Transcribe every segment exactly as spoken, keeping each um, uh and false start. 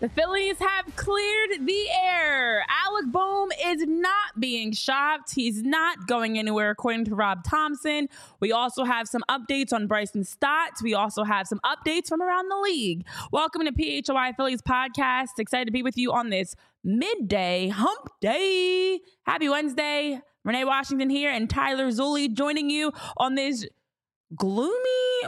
The Phillies have cleared the air. Alec Bohm is not being shopped. He's not going anywhere, according to Rob Thomson. We also have some updates on Bryson Stott. We also have some updates from around the league. Welcome to P H O I Phillies podcast. Excited to be with you on this midday hump day. Happy Wednesday. Renee Washington here and Tyler Zulli joining you on this gloomy,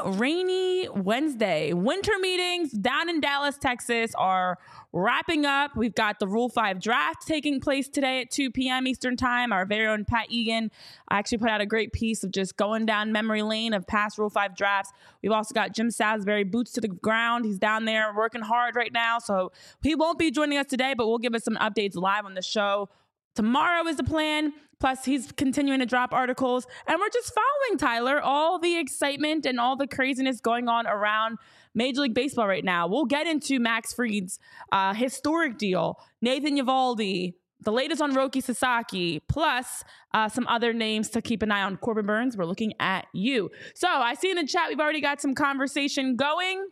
rainy Wednesday. Winter meetings down in Dallas, Texas are wrapping up. We've got the Rule five draft taking place today at two p.m. Eastern time. Our very own Pat Egan actually put out a great piece of just going down memory lane of past Rule five drafts. We've also got Jim Salisbury, boots to the ground. He's down there working hard right now, so he won't be joining us today, but we'll give us some updates live on the show. Tomorrow is the plan. Plus, he's continuing to drop articles. And we're just following, Tyler, all the excitement and all the craziness going on around Major League Baseball right now. We'll get into Max Fried's uh, historic deal, Nathan Eovaldi, the latest on Roki Sasaki, plus uh, some other names to keep an eye on. Corbin Burns, we're looking at you. So I see in the chat we've already got some conversation going.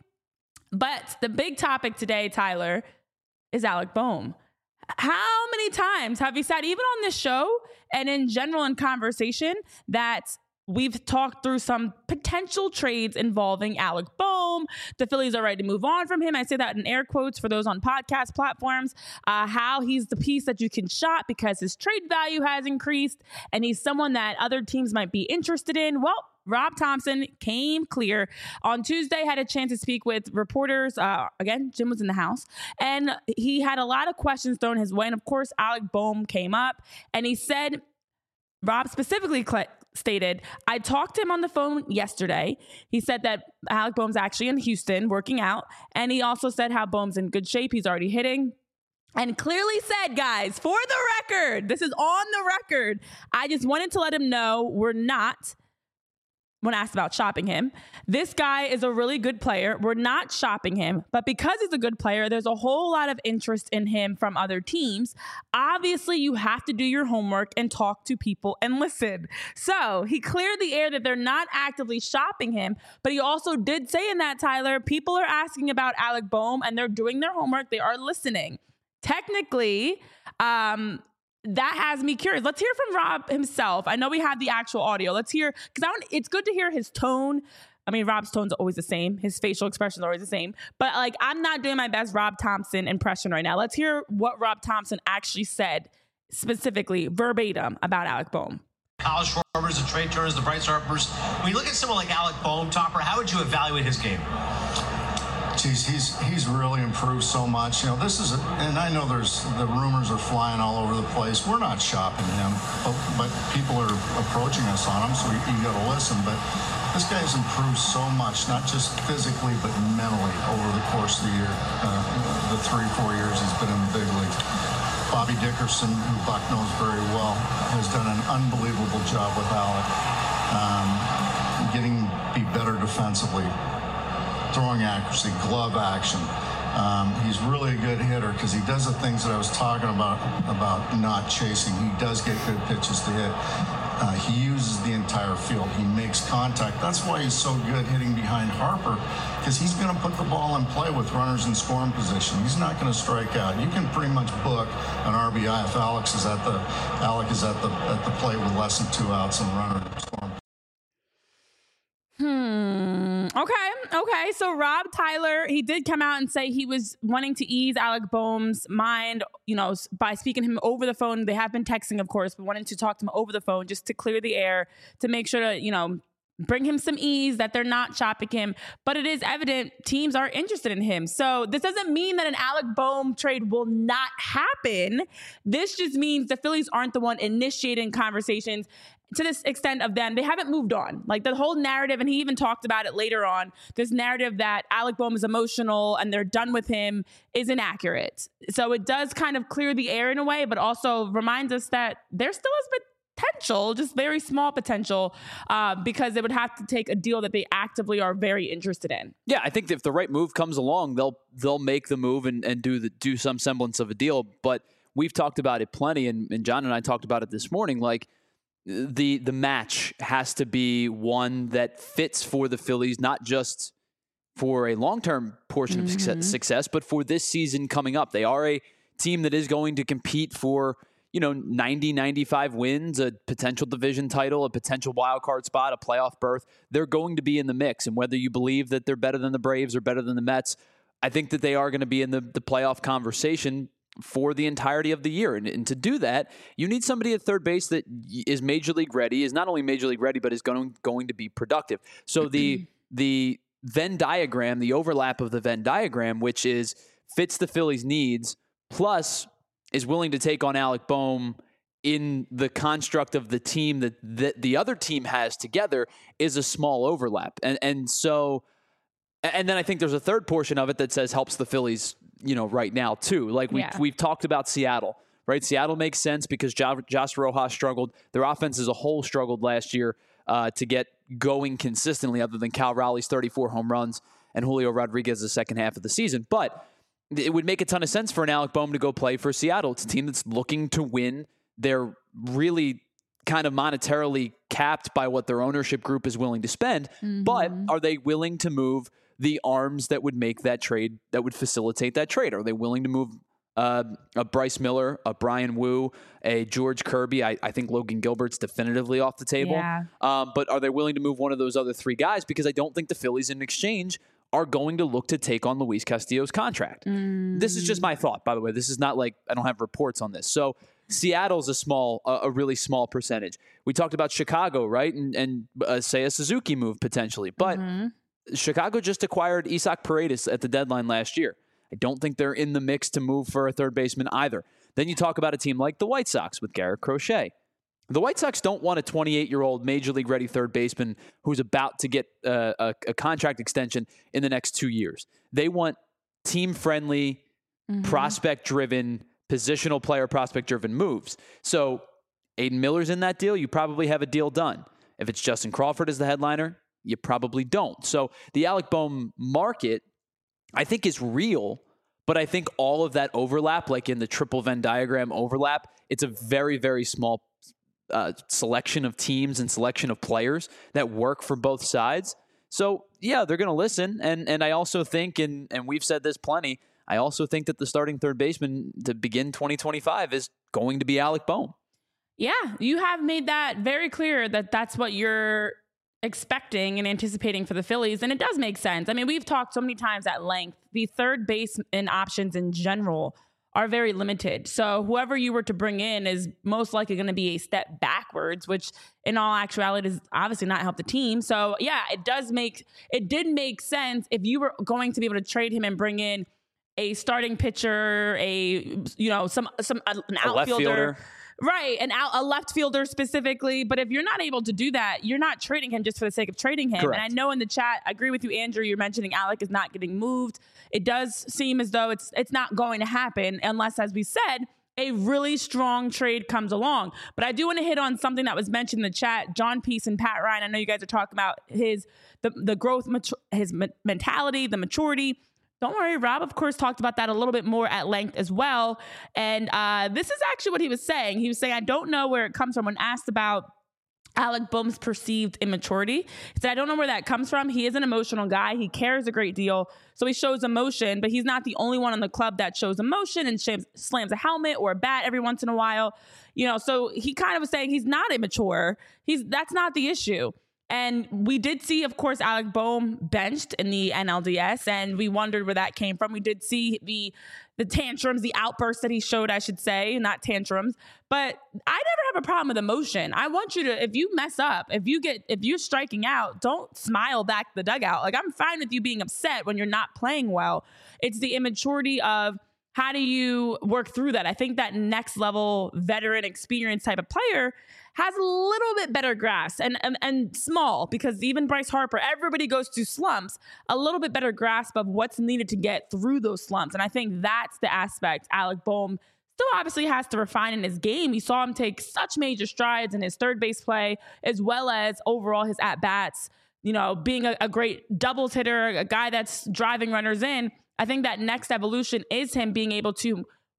But the big topic today, Tyler, is Alec Bohm. How many times have you said, even on this show and in general in conversation, that we've talked through some potential trades involving Alec Bohm? The Phillies are ready to move on from him. I say that in air quotes for those on podcast platforms. Uh, how he's the piece that you can shop because his trade value has increased and he's someone that other teams might be interested in. Well, Rob Thomson came clear on Tuesday, had a chance to speak with reporters. Uh, again, Jim was in the house, and he had a lot of questions thrown his way. And of course, Alec Bohm came up, and he said, Rob specifically cl- stated, I talked to him on the phone yesterday. He said that Alec Bohm's actually in Houston working out. And he also said how Bohm's in good shape. He's already hitting. And clearly said, guys, for the record, this is on the record. I just wanted to let him know we're not, when asked about shopping him, this guy is a really good player. We're not shopping him, but because he's a good player, there's a whole lot of interest in him from other teams. Obviously, you have to do your homework and talk to people and listen. So he cleared the air that they're not actively shopping him, but he also did say in that, Tyler, people are asking about Alec Bohm and they're doing their homework. They are listening. Technically, um, that has me curious. Let's hear from Rob himself. I know we have the actual audio. Let's hear, because I want, it's good to hear his tone. I mean, Rob's tone's always the same. His facial expressions are always the same. But like, I'm not doing my best Rob Thomson impression right now. Let's hear what Rob Thomson actually said, specifically verbatim about Alec Bohm. Kyle Schwarbers, the Trey Turners, the Bryce Harpers. When you look at someone like Alec Bohm, Topper, how would you evaluate his game? Geez, he's he's really improved so much. You know, this is, a, and I know there's the rumors are flying all over the place. We're not shopping him, but, but people are approaching us on him, so you, you got to listen. But this guy's improved so much, not just physically, but mentally over the course of the year, uh, the three, four years he's been in the big league. Bobby Dickerson, who Buck knows very well, has done an unbelievable job with Alec, um, getting be better defensively. Throwing accuracy, glove action. Um, he's really a good hitter because he does the things that I was talking about, about not chasing. He does get good pitches to hit. Uh, he uses the entire field. He makes contact. That's why he's so good hitting behind Harper, because he's going to put the ball in play with runners in scoring position. He's not going to strike out. You can pretty much book an R B I if Alex is at the Alec is at the at the plate with less than two outs and runner in scoring. Hmm. Okay. Okay. So Rob Tyler, he did come out and say he was wanting to ease Alec Bohm's mind, you know, by speaking to him over the phone. They have been texting, of course, but wanting to talk to him over the phone just to clear the air, to make sure to, you know, bring him some ease, that they're not shopping him. But it is evident teams are interested in him. So this doesn't mean that an Alec Bohm trade will not happen. This just means the Phillies aren't the one initiating conversations to this extent of them. They haven't moved on. Like the whole narrative, and he even talked about it later on, this narrative that Alec Bohm is emotional and they're done with him is inaccurate. So it does kind of clear the air in a way, but also reminds us that there still is potential, just very small potential, uh, because it would have to take a deal that they actively are very interested in. Yeah, I think if the right move comes along, they'll they'll make the move and, and do the do some semblance of a deal. But we've talked about it plenty, and, and John and I talked about it this morning. Like the the match has to be one that fits for the Phillies, not just for a long-term portion of Mm-hmm. success, success, but for this season coming up. They are a team that is going to compete for, you know, ninety, ninety-five wins, a potential division title, a potential wild card spot, a playoff berth. They're going to be in the mix. And whether you believe that they're better than the Braves or better than the Mets, I think that they are going to be in the, the playoff conversation for the entirety of the year. And, and to do that, you need somebody at third base that is major league ready, is not only major league ready, but is going, going to be productive. So the the Venn diagram, the overlap of the Venn diagram, which is fits the Phillies' needs, plus is willing to take on Alec Bohm in the construct of the team that the, the other team has together, is a small overlap. And and so, and then I think there's a third portion of it that says helps the Phillies, you know, right now too. Like we, Yeah. we've talked about Seattle, right? Seattle makes sense because jo- Josh Rojas struggled. Their offense as a whole struggled last year uh, to get going consistently, other than Cal Raleigh's thirty-four home runs and Julio Rodriguez the second half of the season. But it would make a ton of sense for an Alec Bohm to go play for Seattle. It's a team that's looking to win. They're really kind of monetarily capped by what their ownership group is willing to spend. Mm-hmm. But are they willing to move the arms that would make that trade, that would facilitate that trade? Are they willing to move uh, a Bryce Miller, a Brian Wu, a George Kirby? I, I think Logan Gilbert's definitively off the table. Yeah. Um, but are they willing to move one of those other three guys? Because I don't think the Phillies in exchange are going to look to take on Luis Castillo's contract. Mm. This is just my thought, by the way. This is not like, I don't have reports on this. So Seattle's a small, a, a really small percentage. We talked about Chicago, right? And, and uh, say a Suzuki move potentially. But mm-hmm. Chicago just acquired Isaac Paredes at the deadline last year. I don't think they're in the mix to move for a third baseman either. Then you talk about a team like the White Sox with Garrett Crochet. The White Sox don't want a twenty-eight-year-old major league ready third baseman who's about to get uh, a, a contract extension in the next two years. They want team-friendly, mm-hmm. prospect-driven, positional player prospect-driven moves. So Aiden Miller's in that deal. You probably have a deal done. If it's Justin Crawford as the headliner, you probably don't. So the Alec Bohm market, I think, is real, but I think all of that overlap, like in the triple Venn diagram overlap, it's a very, very small Uh, selection of teams and selection of players that work for both sides. So yeah, they're going to listen. And and I also think, and and we've said this plenty, I also think that the starting third baseman to begin twenty twenty-five is going to be Alec Bohm. Yeah, you have made that very clear that that's what you're expecting and anticipating for the Phillies. And it does make sense. I mean, we've talked so many times at length, the third baseman options in general are very limited. So whoever you were to bring in is most likely going to be a step backwards, which in all actuality does obviously not help the team. So yeah, it does make, it did make sense if you were going to be able to trade him and bring in a starting pitcher, a, you know, some, some, an a outfielder. Left fielder. Right, an out, a left fielder specifically. But if you're not able to do that, you're not trading him just for the sake of trading him. Correct. And I know in the chat, I agree with you, Andrew, you're mentioning Alec is not getting moved. It does seem as though it's it's not going to happen unless, as we said, a really strong trade comes along. But I do want to hit on something that was mentioned in the chat. John Peace and Pat Ryan, I know you guys are talking about his the, the growth, his mentality, the maturity. Don't worry, Rob, of course, talked about that a little bit more at length as well. And uh, this is actually what he was saying. He was saying, I don't know where it comes from. When asked about Alec Bohm's perceived immaturity, he said, I don't know where that comes from. He is an emotional guy. He cares a great deal. So he shows emotion, but he's not the only one in the club that shows emotion and shams, slams a helmet or a bat every once in a while. You know, so he kind of was saying he's not immature. He's that's not the issue. And we did see, of course, Alec Bohm benched in the N L D S, and we wondered where that came from. We did see the the tantrums, the outbursts that he showed, I should say, not tantrums. But I never have a problem with emotion. I want you to, if you mess up, if you get, if you're striking out, don't smile back the dugout. Like, I'm fine with you being upset when you're not playing well. It's the immaturity of how do you work through that? I think that next level veteran experience type of player has a little bit better grasp and, and and small, because even Bryce Harper, everybody goes through slumps, a little bit better grasp of what's needed to get through those slumps. And I think that's the aspect Alec Bohm still obviously has to refine in his game. You saw him take such major strides in his third base play, as well as overall his at-bats, you know, being a, a great doubles hitter, a guy that's driving runners in. I think that next evolution is him being able to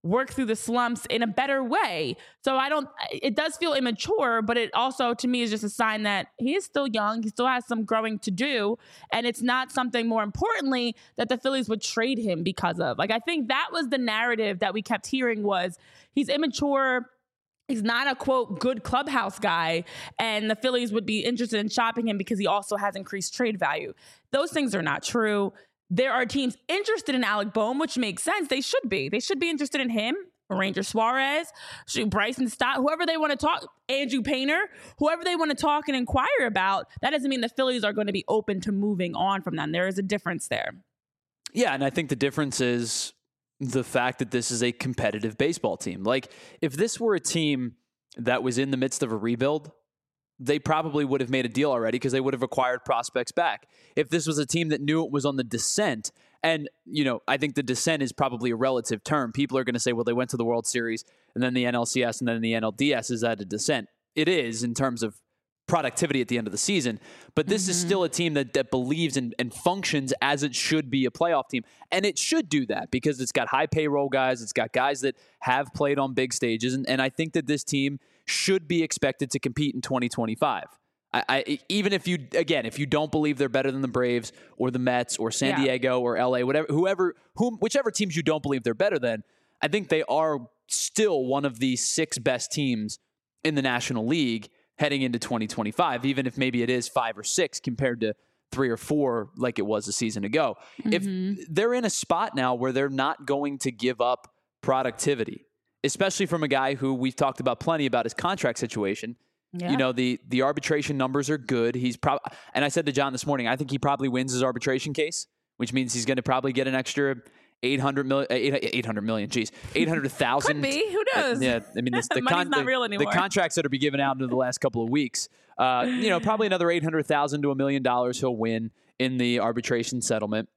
work through the slumps in a better way. So I don't, it does feel immature, but it also to me is just a sign that he is still young. He still has some growing to do. And it's not something, more importantly, that the Phillies would trade him because of. Like, I think that was the narrative that we kept hearing was he's immature. He's not a, quote, good clubhouse guy, and the Phillies would be interested in shopping him because he also has increased trade value. Those things are not true. There are teams interested in Alec Bohm, which makes sense. They should be. They should be interested in him, Ranger Suarez, Bryson Stott, whoever they want to talk, Andrew Painter, whoever they want to talk and inquire about. That doesn't mean the Phillies are going to be open to moving on from them. There is a difference there. Yeah, and I think the difference is the fact that this is a competitive baseball team. Like, if this were a team that was in the midst of a rebuild, they probably would have made a deal already because they would have acquired prospects back. If this was a team that knew it was on the descent, and, you know, I think the descent is probably a relative term. People are going to say, well, they went to the World Series and then the N L C S and then the N L D S is at a descent. It is in terms of productivity at the end of the season. But this mm-hmm. is still a team that, that believes in, and functions as it should be a playoff team. And it should do that because it's got high payroll guys. It's got guys that have played on big stages. And, and I think that this team should be expected to compete in twenty twenty-five. I, I, even if you, again, if you don't believe they're better than the Braves or the Mets or San yeah. Diego or L A, whatever, whoever, whom, whichever teams you don't believe they're better than, I think they are still one of the six best teams in the National League heading into twenty twenty-five, even if maybe it is five or six compared to three or four like it was a season ago. Mm-hmm. If they're in a spot now where they're not going to give up productivity, especially from a guy who we've talked about plenty about his contract situation. Yeah. You know, the the arbitration numbers are good. He's probably, and I said to John this morning, I think he probably wins his arbitration case, which means he's going to probably get an extra eight hundred million, eight hundred million, geez, eight hundred thousand. Could be, who knows? Yeah, I mean, this, the, con- not the, real anymore. the contracts that are be given out in the last couple of weeks, uh, you know, probably another eight hundred thousand to a million dollars he'll win in the arbitration settlement.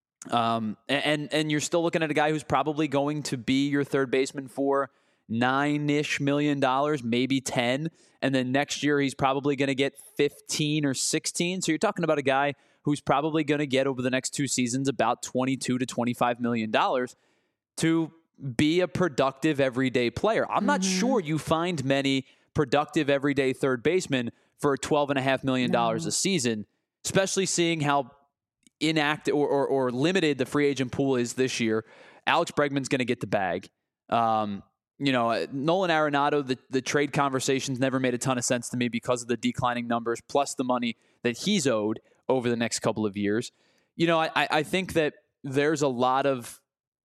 Um, and and you're still looking at a guy who's probably going to be your third baseman for nine-ish million dollars, maybe ten. And then next year he's probably going to get fifteen or sixteen. So you're talking about a guy who's probably going to get over the next two seasons about twenty-two to twenty-five million dollars to be a productive everyday player. I'm mm-hmm. not sure you find many productive everyday third basemen for twelve and a half million dollars no. a season, especially seeing how inactive or, or, or limited the free agent pool is this year. Alex Bregman's going to get the bag. Um, You know, Nolan Arenado, the, the trade conversations never made a ton of sense to me because of the declining numbers, plus the money that he's owed over the next couple of years. You know, I, I think that there's a lot of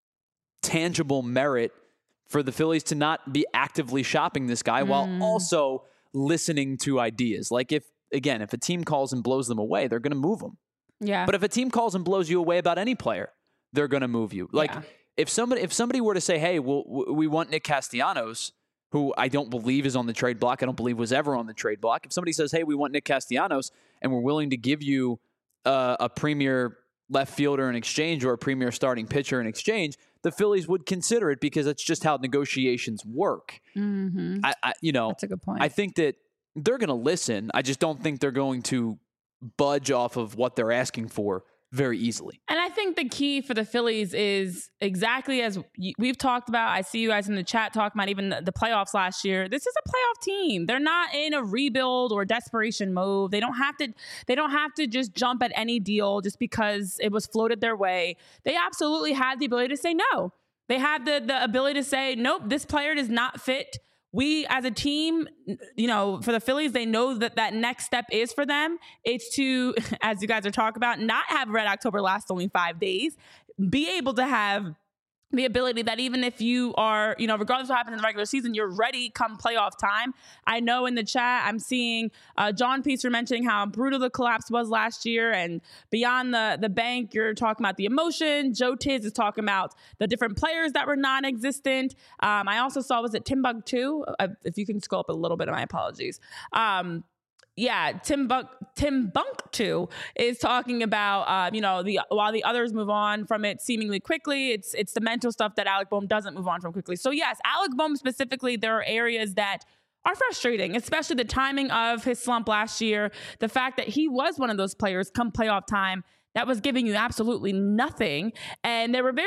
tangible merit for the Phillies to not be actively shopping this guy mm. while also listening to ideas. Like if, again, if a team calls and blows them away, they're going to move them. Yeah. But if a team calls and blows you away about any player, they're going to move you. Like, yeah. If somebody if somebody were to say, hey, well, we want Nick Castellanos, who I don't believe is on the trade block, I don't believe was ever on the trade block. If somebody says, hey, we want Nick Castellanos, and we're willing to give you uh, a premier left fielder in exchange or a premier starting pitcher in exchange, the Phillies would consider it because that's just how negotiations work. Mm-hmm. I, I, you know, that's a good point. I think that they're going to listen. I just don't think they're going to budge off of what they're asking for very easily. And I think the key for the Phillies is exactly as we've talked about. I see you guys in the chat talking about even the playoffs last year. This is a playoff team. They're not in a rebuild or desperation mode. They don't have to, they don't have to just jump at any deal just because it was floated their way. They absolutely had the ability to say no. They had the, the ability to say, nope, this player does not fit. We, as a team, you know, for the Phillies, they know that that next step is for them. It's to, as you guys are talking about, not have Red October last only five days, be able to have the ability that even if you are, you know, regardless of what happens in the regular season, you're ready come playoff time. I know in the chat, I'm seeing uh, John Piecer mentioning how brutal the collapse was last year, and beyond the, the bank, you're talking about the emotion. Joe Tiz is talking about the different players that were non-existent. Um, I also saw, was it Timbuktu? Uh, if you can scroll up a little bit, my apologies. Um, Yeah, Tim Bunk, Tim Bunktu is talking about, uh, you know, the while the others move on from it seemingly quickly, it's it's the mental stuff that Alec Bohm doesn't move on from quickly. So yes, Alec Bohm specifically, there are areas that are frustrating, especially the timing of his slump last year, the fact that he was one of those players come playoff time that was giving you absolutely nothing. And there were very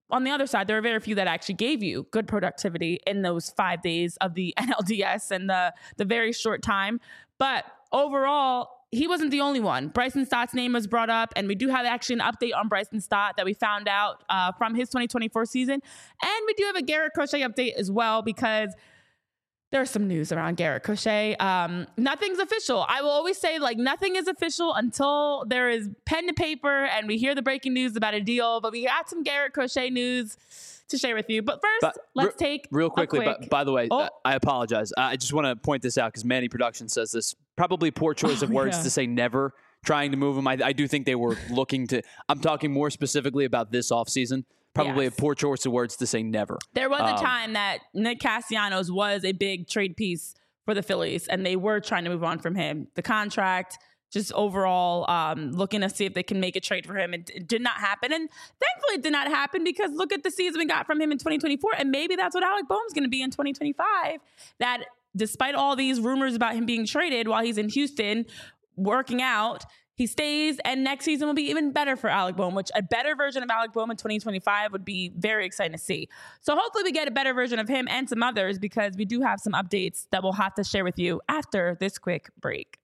on the other side, there are very few that actually gave you good productivity in those five days of the N L D S and the, the very short time. But overall, he wasn't the only one. Bryson Stott's name was brought up, and we do have actually an update on Bryson Stott that we found out uh, from his twenty twenty-four season. And we do have a Garrett Crochet update as well, because there's some news around Garrett Crochet. Um, nothing's official. I will always say, like, nothing is official until there is pen to paper and we hear the breaking news about a deal. But we got some Garrett Crochet news to share with you. But first, but let's re- take real quickly. Quick, but by the way, oh. I apologize. I just want to point this out because Manny Production says this. Probably poor choice oh, of words yeah. to say never trying to move him. I, I do think they were looking to. I'm talking more specifically about this offseason. Probably yes. a poor choice of words to say never. There was um, a time that Nick Castellanos was a big trade piece for the Phillies, and they were trying to move on from him. The contract, just overall um, looking to see if they can make a trade for him. It, it did not happen. And thankfully it did not happen, because look at the season we got from him in twenty twenty-four. And maybe that's what Alec Boehm's going to be in twenty twenty-five. That despite all these rumors about him being traded while he's in Houston working out, he stays, and next season will be even better for Alec Boehm, which a better version of Alec Boehm in twenty twenty-five would be very exciting to see. So hopefully we get a better version of him and some others, because we do have some updates that we'll have to share with you after this quick break.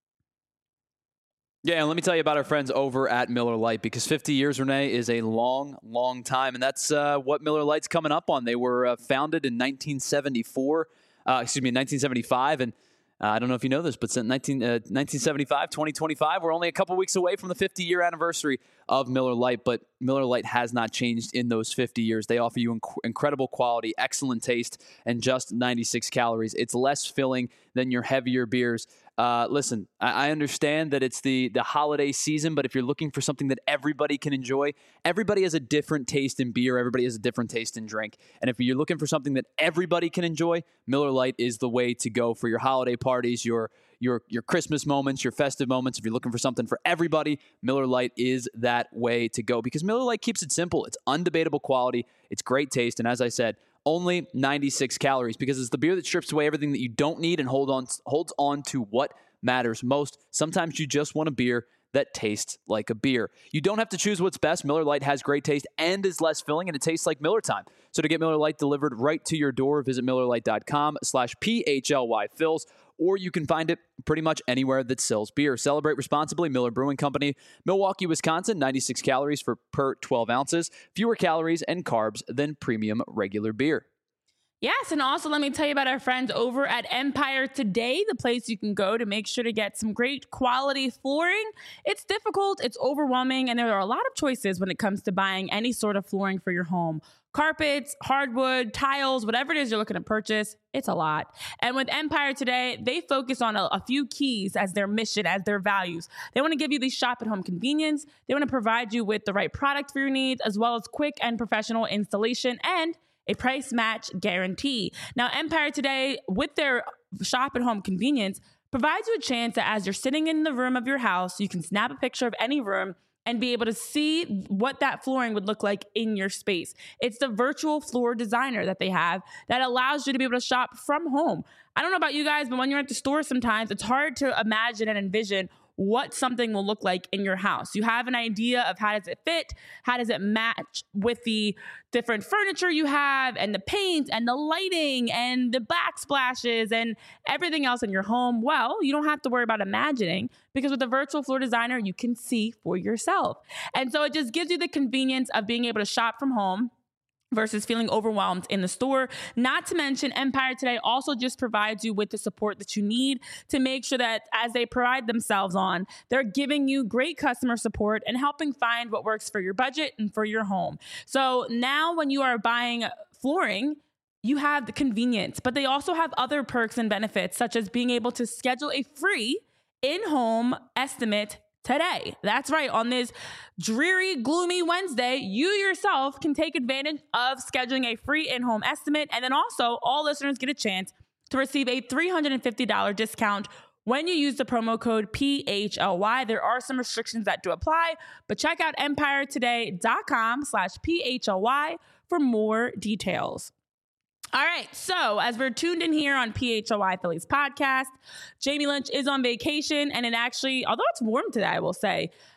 Yeah, and let me tell you about our friends over at Miller Lite, because fifty years, Renee, is a long, long time, and that's uh, what Miller Lite's coming up on. They were uh, founded in nineteen seventy-four, uh, excuse me, nineteen seventy-five, and Uh, I don't know if you know this, but since nineteen, uh, nineteen seventy-five, twenty twenty-five, we're only a couple weeks away from the fifty-year anniversary of Miller Lite, but Miller Lite has not changed in those fifty years. They offer you inc- incredible quality, excellent taste, and just ninety-six calories. It's less filling than your heavier beers. Uh, listen, I, I understand that it's the, the holiday season, but if you're looking for something that everybody can enjoy, everybody has a different taste in beer. Everybody has a different taste in drink. And if you're looking for something that everybody can enjoy, Miller Lite is the way to go for your holiday parties, your your your Christmas moments, your festive moments. If you're looking for something for everybody, Miller Lite is that way to go, because Miller Lite keeps it simple. It's undebatable quality. It's great taste. And as I said, only ninety-six calories, because it's the beer that strips away everything that you don't need and hold on holds on to what matters most. Sometimes you just want a beer that tastes like a beer. You don't have to choose what's best. Miller Lite has great taste and is less filling, and it tastes like Miller time. So to get Miller Lite delivered right to your door, visit MillerLite.com slash PHLY Phils, or you can find it pretty much anywhere that sells beer. Celebrate responsibly. Miller Brewing Company, Milwaukee, Wisconsin. ninety-six calories for per twelve ounces. Fewer calories and carbs than premium regular beer. Yes, and also let me tell you about our friends over at Empire Today, the place you can go to make sure to get some great quality flooring. It's difficult, it's overwhelming, and there are a lot of choices when it comes to buying any sort of flooring for your home. Carpets, hardwood, tiles, whatever it is you're looking to purchase, it's a lot. And with Empire Today, they focus on a, a few keys as their mission, as their values. They want to give you the shop-at-home convenience. They want to provide you with the right product for your needs, as well as quick and professional installation and a price match guarantee. Now, Empire Today, with their shop-at-home convenience, provides you a chance that as you're sitting in the room of your house, you can snap a picture of any room and be able to see what that flooring would look like in your space. It's the virtual floor designer that they have that allows you to be able to shop from home. I don't know about you guys, but when you're at the store sometimes, it's hard to imagine and envision what something will look like in your house. You have an idea of how does it fit, how does it match with the different furniture you have, and the paint, and the lighting, and the backsplashes, and everything else in your home. Well, you don't have to worry about imagining, because with the virtual floor designer, you can see for yourself. And so it just gives you the convenience of being able to shop from home versus feeling overwhelmed in the store. Not to mention, Empire Today also just provides you with the support that you need to make sure that as they pride themselves on, they're giving you great customer support and helping find what works for your budget and for your home. So now when you are buying flooring, you have the convenience, but they also have other perks and benefits, such as being able to schedule a free in-home estimate today. That's right. On this dreary, gloomy Wednesday, you yourself can take advantage of scheduling a free in-home estimate. And then also, all listeners get a chance to receive a three hundred fifty dollars discount when you use the promo code P H L Y. There are some restrictions that do apply, but check out empiretoday.com slash PHLY for more details. All right, so as we're tuned in here on P H L Y Phillies podcast, Jamie Lynch is on vacation, and it actually, although it's warm today, I will say,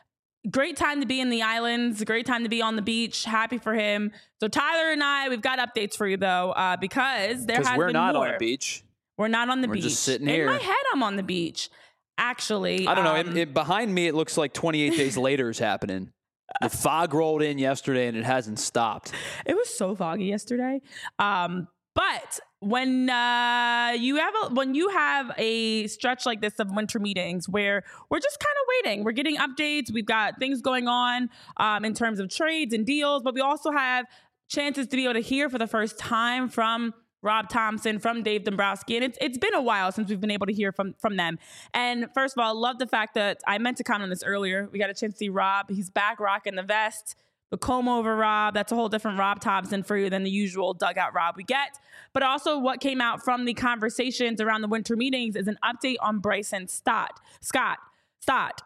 great time to be in the islands, great time to be on the beach. Happy for him. So Tyler and I, we've got updates for you though, uh, because there has we're been not more. on a beach. We're not on the we're beach. We're just sitting in here. In my head, I'm on the beach. Actually, I don't know. Um, it, it, behind me, it looks like twenty-eight days later is happening. The fog rolled in yesterday and it hasn't stopped. It was so foggy yesterday. Um, but when uh, you have a, when you have a stretch like this of winter meetings where we're just kind of waiting, we're getting updates, we've got things going on um, in terms of trades and deals, but we also have chances to be able to hear for the first time from Rob Thompson, from Dave Dombrowski. And it's it's been a while since we've been able to hear from, from them. And first of all, I love the fact that I meant to comment on this earlier. We got a chance to see Rob. He's back rocking the vest, the comb over Rob. That's a whole different Rob Thompson for you than the usual dugout Rob we get. But also what came out from the conversations around the winter meetings is an update on Bryson Stott. Scott. Stott.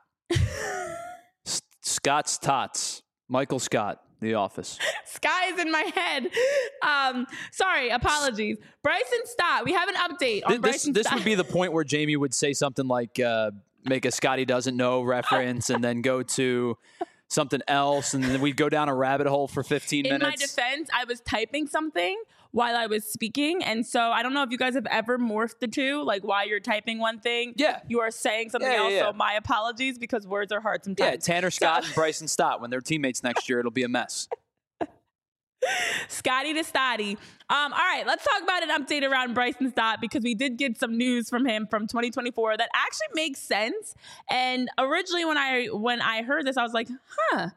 Scott's Tots. Michael Scott. The Office. Sky is in my head. Um, sorry, apologies. Bryson Stott. We have an update on this, Bryson this Stott. This would be the point where Jamie would say something like, uh, make a Scotty doesn't know reference and then go to something else. And then we'd go down a rabbit hole for fifteen in minutes. In my defense, I was typing something while I was speaking. And so I don't know if you guys have ever morphed the two, like while you're typing one thing, yeah, you are saying something yeah, else. Yeah, yeah. So my apologies because words are hard sometimes. Yeah, Tanner Scott so. and Bryson Stott, when they're teammates next year, it'll be a mess. Scotty to Stotty. Um, all right, let's talk about an update around Bryson Stott because we did get some news from him from twenty twenty-four that actually makes sense. And originally when I when I heard this, I was like, huh,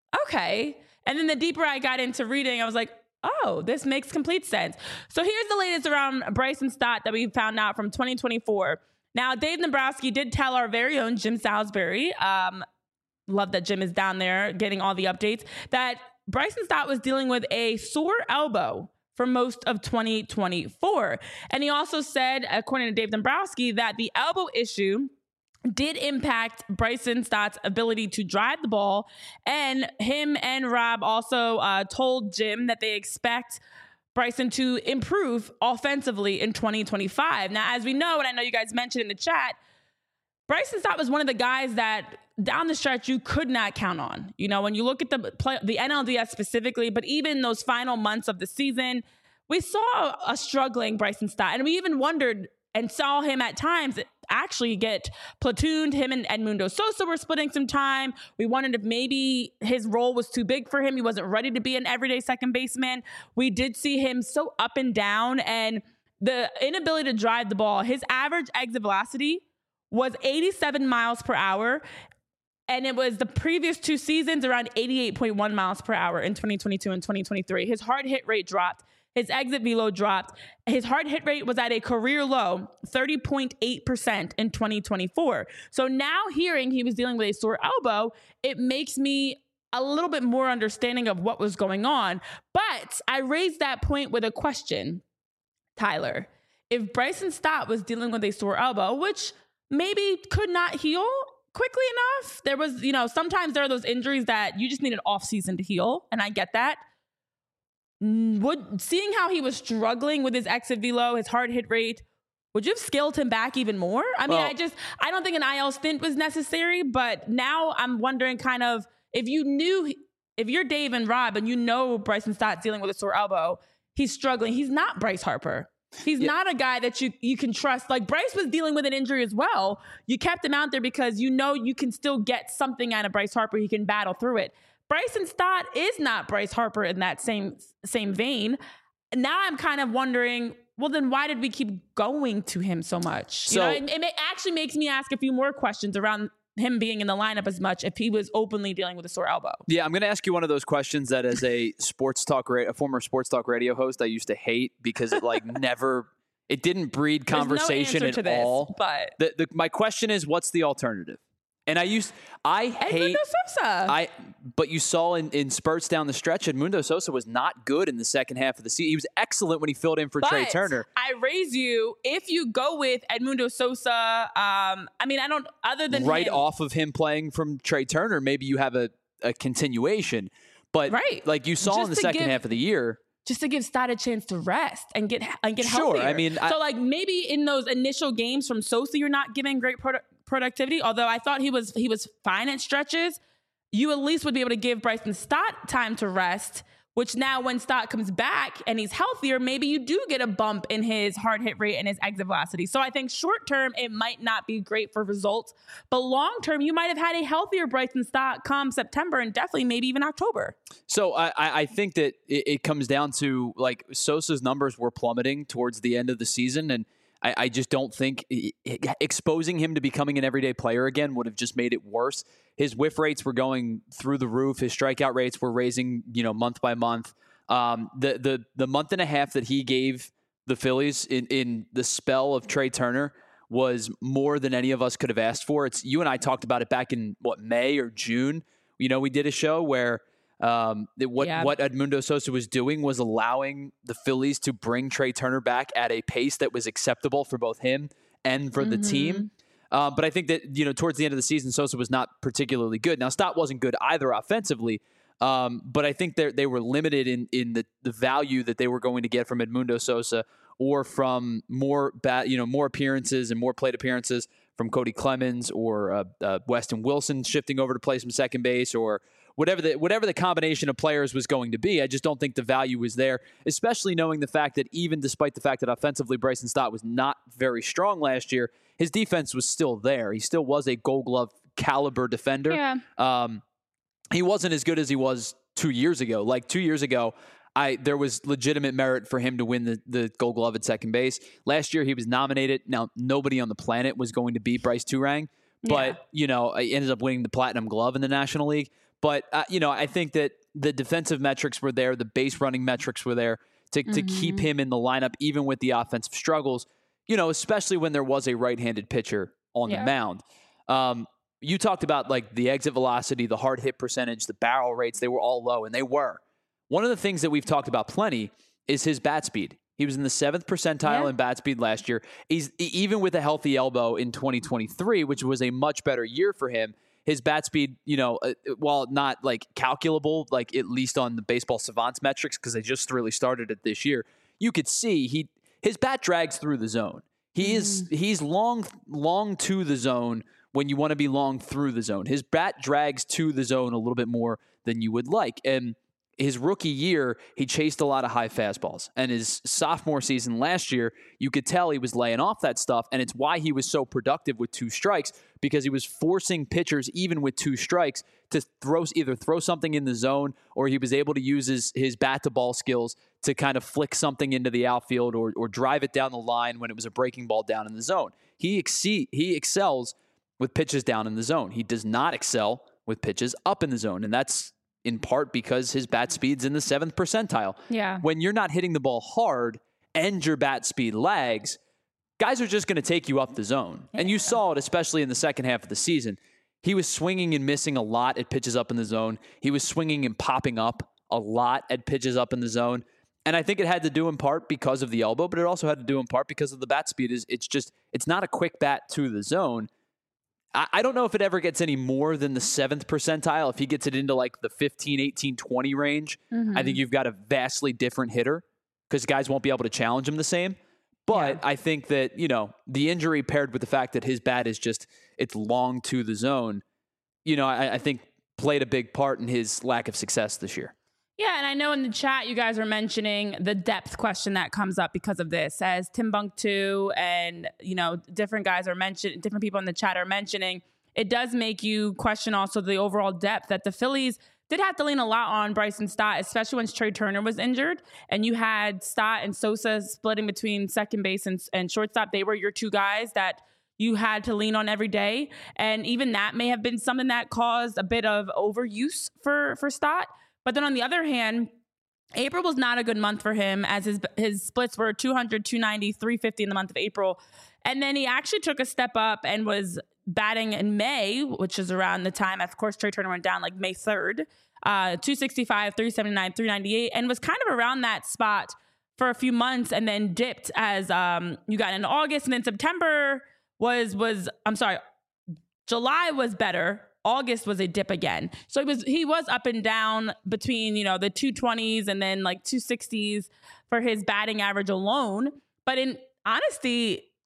okay. And then the deeper I got into reading, I was like, oh, this makes complete sense. So here's the latest around Bryson Stott that we found out from twenty twenty-four. Now, Dave Dombrowski did tell our very own Jim Salisbury, um, love that Jim is down there getting all the updates, that Bryson Stott was dealing with a sore elbow for most of twenty twenty-four. And he also said, according to Dave Dombrowski, that the elbow issue did impact Bryson Stott's ability to drive the ball. And him and Rob also uh, told Jim that they expect Bryson to improve offensively in twenty twenty-five. Now, as we know, and I know you guys mentioned in the chat, Bryson Stott was one of the guys that down the stretch you could not count on. You know, when you look at the play, the N L D S specifically, but even those final months of the season, we saw a struggling Bryson Stott. And we even wondered and saw him at times actually get platooned. Him and Edmundo Sosa were splitting some time. We wondered if maybe his role was too big for him. He wasn't ready to be an everyday second baseman. We did see him so up and down, and the inability to drive the ball. His average exit velocity was eighty-seven miles per hour. And it was the previous two seasons around eighty-eight point one miles per hour in twenty twenty-two and twenty twenty-three. His hard hit rate dropped. His exit velo dropped. His hard hit rate was at a career low, thirty point eight percent in twenty twenty-four. So now hearing he was dealing with a sore elbow, it makes me a little bit more understanding of what was going on. But I raised that point with a question, Tyler. If Bryson Stott was dealing with a sore elbow, which maybe could not heal quickly enough, there was, you know, sometimes there are those injuries that you just need an off season to heal. And I get that. Would seeing how he was struggling with his exit velo, his hard hit rate, would you have scaled him back even more? I mean, well, I just, I don't think an I L stint was necessary, but now I'm wondering kind of if you knew, if you're Dave and Rob and you know Bryson Stott dealing with a sore elbow, he's struggling. He's not Bryce Harper. He's yeah. not a guy that you, you can trust. Like Bryce was dealing with an injury as well. You kept him out there because you know you can still get something out of Bryce Harper. He can battle through it. Bryson Stott is not Bryce Harper in that same same vein. Now I'm kind of wondering, well, then why did we keep going to him so much? So, you know, it, it actually makes me ask a few more questions around him being in the lineup as much if he was openly dealing with a sore elbow. Yeah, I'm going to ask you one of those questions that as a sports talk, ra- a former sports talk radio host, I used to hate because it like never, it didn't breed conversation There's no answer at to this, all. But the, the, my question is, what's the alternative? And I used, I hate, Edmundo Sosa. I, but you saw in, in spurts down the stretch, Edmundo Sosa was not good in the second half of the season. He was excellent when he filled in for but Trey Turner. I raise you, if you go with Edmundo Sosa, um, I mean, I don't, other than right him, off of him playing from Trey Turner, maybe you have a, a continuation. But right. like you saw Just in the to second give, half of the year. Just to give Stott a chance to rest and get and get Sure, healthier. I mean, I, so like maybe in those initial games from Sosa, you're not giving great produ- productivity. Although I thought he was he was fine at stretches. you at least would be able to give Bryson Stott time to rest, which now when Stott comes back and he's healthier, maybe you do get a bump in his hard hit rate and his exit velocity. So I think short term, it might not be great for results, but long term, you might have had a healthier Bryson Stott come September and definitely maybe even October. So I, I think that it, it comes down to, like, Sosa's numbers were plummeting towards the end of the season, and I, I just don't think exposing him to becoming an everyday player again would have just made it worse. His whiff rates were going through the roof. His strikeout rates were raising, you know, month by month. Um, the the the month and a half that he gave the Phillies in, in the spell of Trey Turner was more than any of us could have asked for. It's you and I talked about it back in what May or June. You know, we did a show where um, it, what yeah. what Edmundo Sosa was doing was allowing the Phillies to bring Trey Turner back at a pace that was acceptable for both him and for mm-hmm. the team. Uh, but I think that, you know, towards the end of the season, Sosa was not particularly good. Now, Stott wasn't good either offensively, um, but I think they were limited in in the, the value that they were going to get from Edmundo Sosa or from more bat, you know, more appearances and more plate appearances from Cody Clemens or uh, uh, Weston Wilson shifting over to play some second base or whatever the whatever the combination of players was going to be. I just don't think the value was there, especially knowing the fact that even despite the fact that offensively Bryson Stott was not very strong last year, his defense was still there. He still was a Gold Glove caliber defender. Yeah. Um, he wasn't as good as he was two years ago. Like two years ago, I there was legitimate merit for him to win the, the Gold Glove at second base. Last year, he was nominated. Now, nobody on the planet was going to beat Bryce Turang, but, yeah. you know, he ended up winning the Platinum Glove in the National League. But, uh, you know, I think that the defensive metrics were there. The base running metrics were there to, mm-hmm. to keep him in the lineup, even with the offensive struggles, you know, especially when there was a right-handed pitcher on yeah. the mound. Um, you talked about, like, the exit velocity, the hard hit percentage, the barrel rates. They were all low, and they were. One of the things that we've talked about plenty is his bat speed. He was in the seventh percentile yeah. in bat speed last year. He's even with a healthy elbow in twenty twenty-three, which was a much better year for him. His bat speed, you know, uh, while not like calculable, like at least on the Baseball Savants metrics, because they just really started it this year, you could see he his bat drags through the zone. He mm. is he's long long to the zone when you want to be long through the zone. His bat drags to the zone a little bit more than you would like, and his rookie year, he chased a lot of high fastballs. And his sophomore season last year, you could tell he was laying off that stuff. And it's why he was so productive with two strikes, because he was forcing pitchers, even with two strikes, to throw either throw something in the zone, or he was able to use his, his bat-to-ball skills to kind of flick something into the outfield or, or drive it down the line when it was a breaking ball down in the zone. He exceed, he excels with pitches down in the zone. He does not excel with pitches up in the zone. And that's in part because his bat speed's in the seventh percentile. Yeah. When you're not hitting the ball hard and your bat speed lags, guys are just going to take you up the zone. Yeah. And you saw it, especially in the second half of the season. He was swinging and missing a lot at pitches up in the zone. He was swinging and popping up a lot at pitches up in the zone. And I think it had to do in part because of the elbow, but it also had to do in part because of the bat speed. Is It's just, it's not a quick bat to the zone. I don't know if it ever gets any more than the seventh percentile. If he gets it into like the fifteen, eighteen, twenty range, mm-hmm. I think you've got a vastly different hitter because guys won't be able to challenge him the same. But yeah. I think that, you know, the injury paired with the fact that his bat is just, it's long to the zone, you know, I, I think played a big part in his lack of success this year. Yeah, and I know in the chat you guys are mentioning the depth question that comes up because of this, as Tim Bunk2 and, you know, different guys are mentioning, different people in the chat are mentioning. It does make you question also the overall depth that the Phillies did have to lean a lot on Bryson Stott, especially when Trey Turner was injured. And you had Stott and Sosa splitting between second base and, and shortstop. They were your two guys that you had to lean on every day. And even that may have been something that caused a bit of overuse for, for Stott. But then on the other hand, April was not a good month for him, as his his splits were two hundred, two ninety, three fifty in the month of April. And then he actually took a step up and was batting in May, which is around the time, of course, Trey Turner went down like May third, uh, two sixty-five, three seventy-nine, three ninety-eight, and was kind of around that spot for a few months and then dipped as um, you got into August. And then September was, was I'm sorry, July was better. August was a dip again. So he was he was up and down between, you know, the two twenties and then like two sixties for his batting average alone. But in honesty,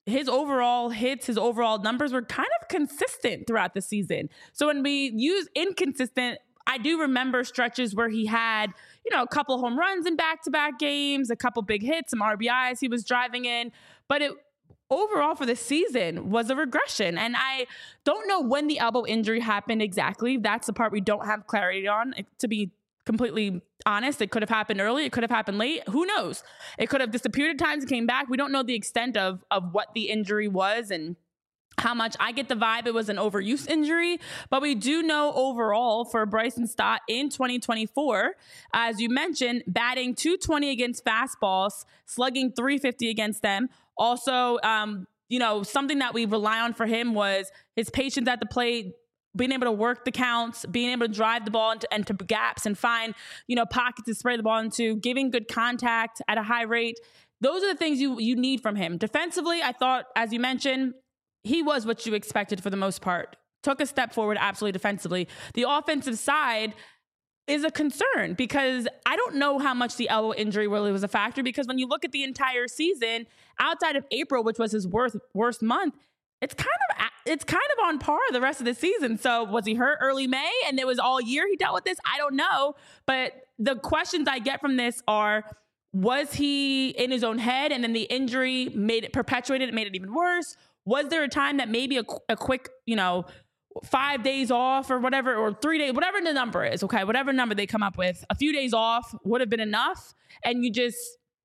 his overall hits, his overall numbers were kind of consistent throughout the season. So when we use inconsistent, I do remember stretches where he had, you know, a couple home runs in back-to-back games, a couple big hits, some R B Is he was driving in, but it overall for the season was a regression. And I don't know when the elbow injury happened exactly. That's the part we don't have clarity on. To be completely honest, it could have happened early. It could have happened late. Who knows? It could have disappeared at times and came back. We don't know the extent of, of what the injury was and how much. I get the vibe it was an overuse injury, but we do know overall for Bryson Stott in twenty twenty-four, as you mentioned, batting two twenty against fastballs, slugging three fifty against them. Also, um, you know, something that we rely on for him was his patience at the plate, being able to work the counts, being able to drive the ball into, into gaps and find, you know, pockets to spray the ball into, giving good contact at a high rate. Those are the things you you need from him. Defensively, I thought, as you mentioned, he was what you expected for the most part. Took a step forward absolutely defensively. The offensive side is a concern because I don't know how much the elbow injury really was a factor, because when you look at the entire season, outside of April, which was his worst, worst month, it's kind of it's kind of on par the rest of the season. So was he hurt early May and it was all year he dealt with this? I don't know. But the questions I get from this are, was he in his own head and then the injury made it perpetuated, it made it even worse? Was there a time that maybe a, a quick, you know, five days off or whatever, or three days, whatever the number is, okay, whatever number they come up with, a few days off would have been enough, and you just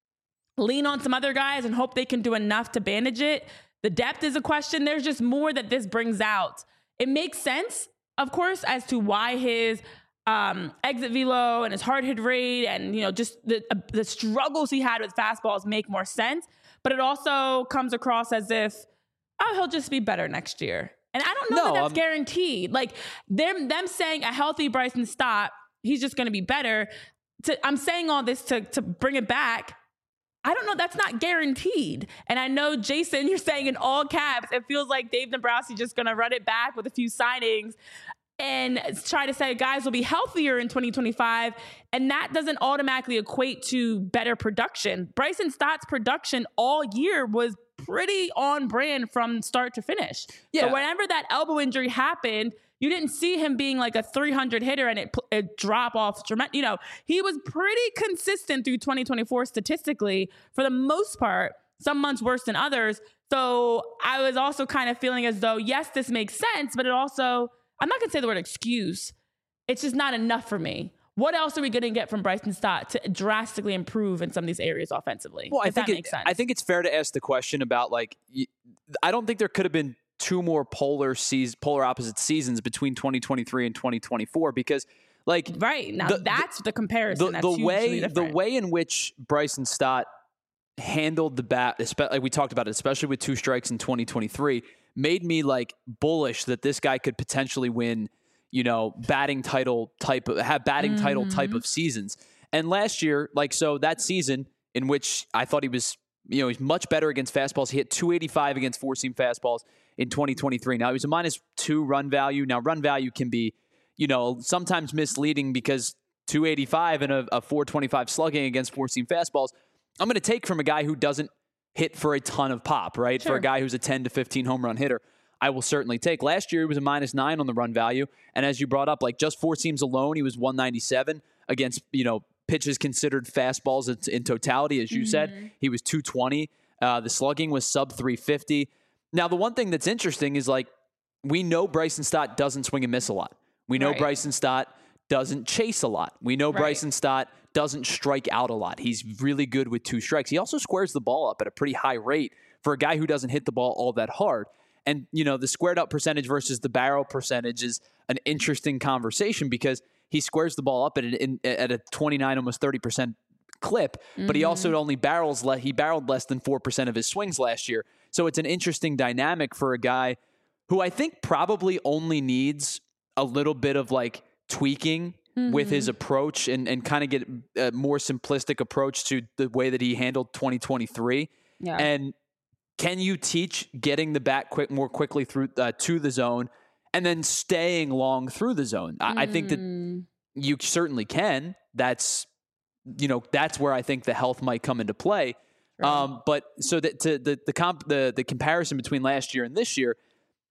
lean on some other guys and hope they can do enough to bandage it? The depth is a question. There's just more that this brings out. It makes sense, of course, as to why his um, exit velo and his hard hit rate and, you know, just the uh, the struggles he had with fastballs make more sense. But it also comes across as if, oh, he'll just be better next year. And I don't know No, that that's um, guaranteed. Like them, them saying a healthy Bryson Stott, he's just going to be better. To, I'm saying all this to, to bring it back. I don't know. That's not guaranteed. And I know, Jason, you're saying in all caps, it feels like Dave Dombrowski just going to run it back with a few signings and try to say guys will be healthier in twenty twenty-five. And that doesn't automatically equate to better production. Bryson Stott's production all year was pretty on brand from start to finish. Yeah. So whenever that elbow injury happened, you didn't see him being like a three hundred hitter and it, it drop off. You know, he was pretty consistent through twenty twenty-four statistically for the most part, some months worse than others. So I was also kind of feeling as though, yes, this makes sense, but it also, I'm not going to say the word excuse. It's just not enough for me. What else are we going to get from Bryson Stott to drastically improve in some of these areas offensively? Well, I if think that it, makes sense. I think it's fair to ask the question about, like, I don't think there could have been two more polar seas, polar opposite seasons between twenty twenty-three and twenty twenty-four, because, like, right now the, that's the comparison. The, that's the hugely way different. the way in which Bryson Stott handled the bat, like we talked about it, especially with two strikes in twenty twenty-three, made me like bullish that this guy could potentially win, you know, batting title type of have batting mm-hmm. title type of seasons. And last year, like, so that season in which I thought he was, you know, he's much better against fastballs. He hit two eighty-five against four seam fastballs in twenty twenty-three. Now he was a minus two run value. Now run value can be, you know, sometimes misleading because two eighty-five and a, a four twenty-five slugging against four seam fastballs, I'm going to take from a guy who doesn't hit for a ton of pop, right? Sure. For a guy who's a ten to fifteen home run hitter, I will certainly take. Last year, he was a minus nine on the run value. And as you brought up, like just four seams alone, he was one ninety-seven against, you know, pitches considered fastballs in, in totality. As you mm-hmm. said, he was two twenty. Uh, the slugging was sub three fifty. Now, the one thing that's interesting is, like, we know Bryson Stott doesn't swing and miss a lot. We know right. Bryson Stott doesn't chase a lot. We know right. Bryson Stott doesn't strike out a lot. He's really good with two strikes. He also squares the ball up at a pretty high rate for a guy who doesn't hit the ball all that hard. And, you know, the squared up percentage versus the barrel percentage is an interesting conversation because he squares the ball up at, an, at a twenty-nine, almost thirty percent clip, mm-hmm. but he also only barrels, le- he barreled less than four percent of his swings last year. So it's an interesting dynamic for a guy who I think probably only needs a little bit of like tweaking mm-hmm. with his approach and, and kind of get a more simplistic approach to the way that he handled twenty twenty-three. Yeah. And can you teach getting the bat quick more quickly through uh, to the zone and then staying long through the zone? I, mm. I think that you certainly can. That's, you know, that's where I think the health might come into play. Um, but so that to the the comp the the comparison between last year and this year,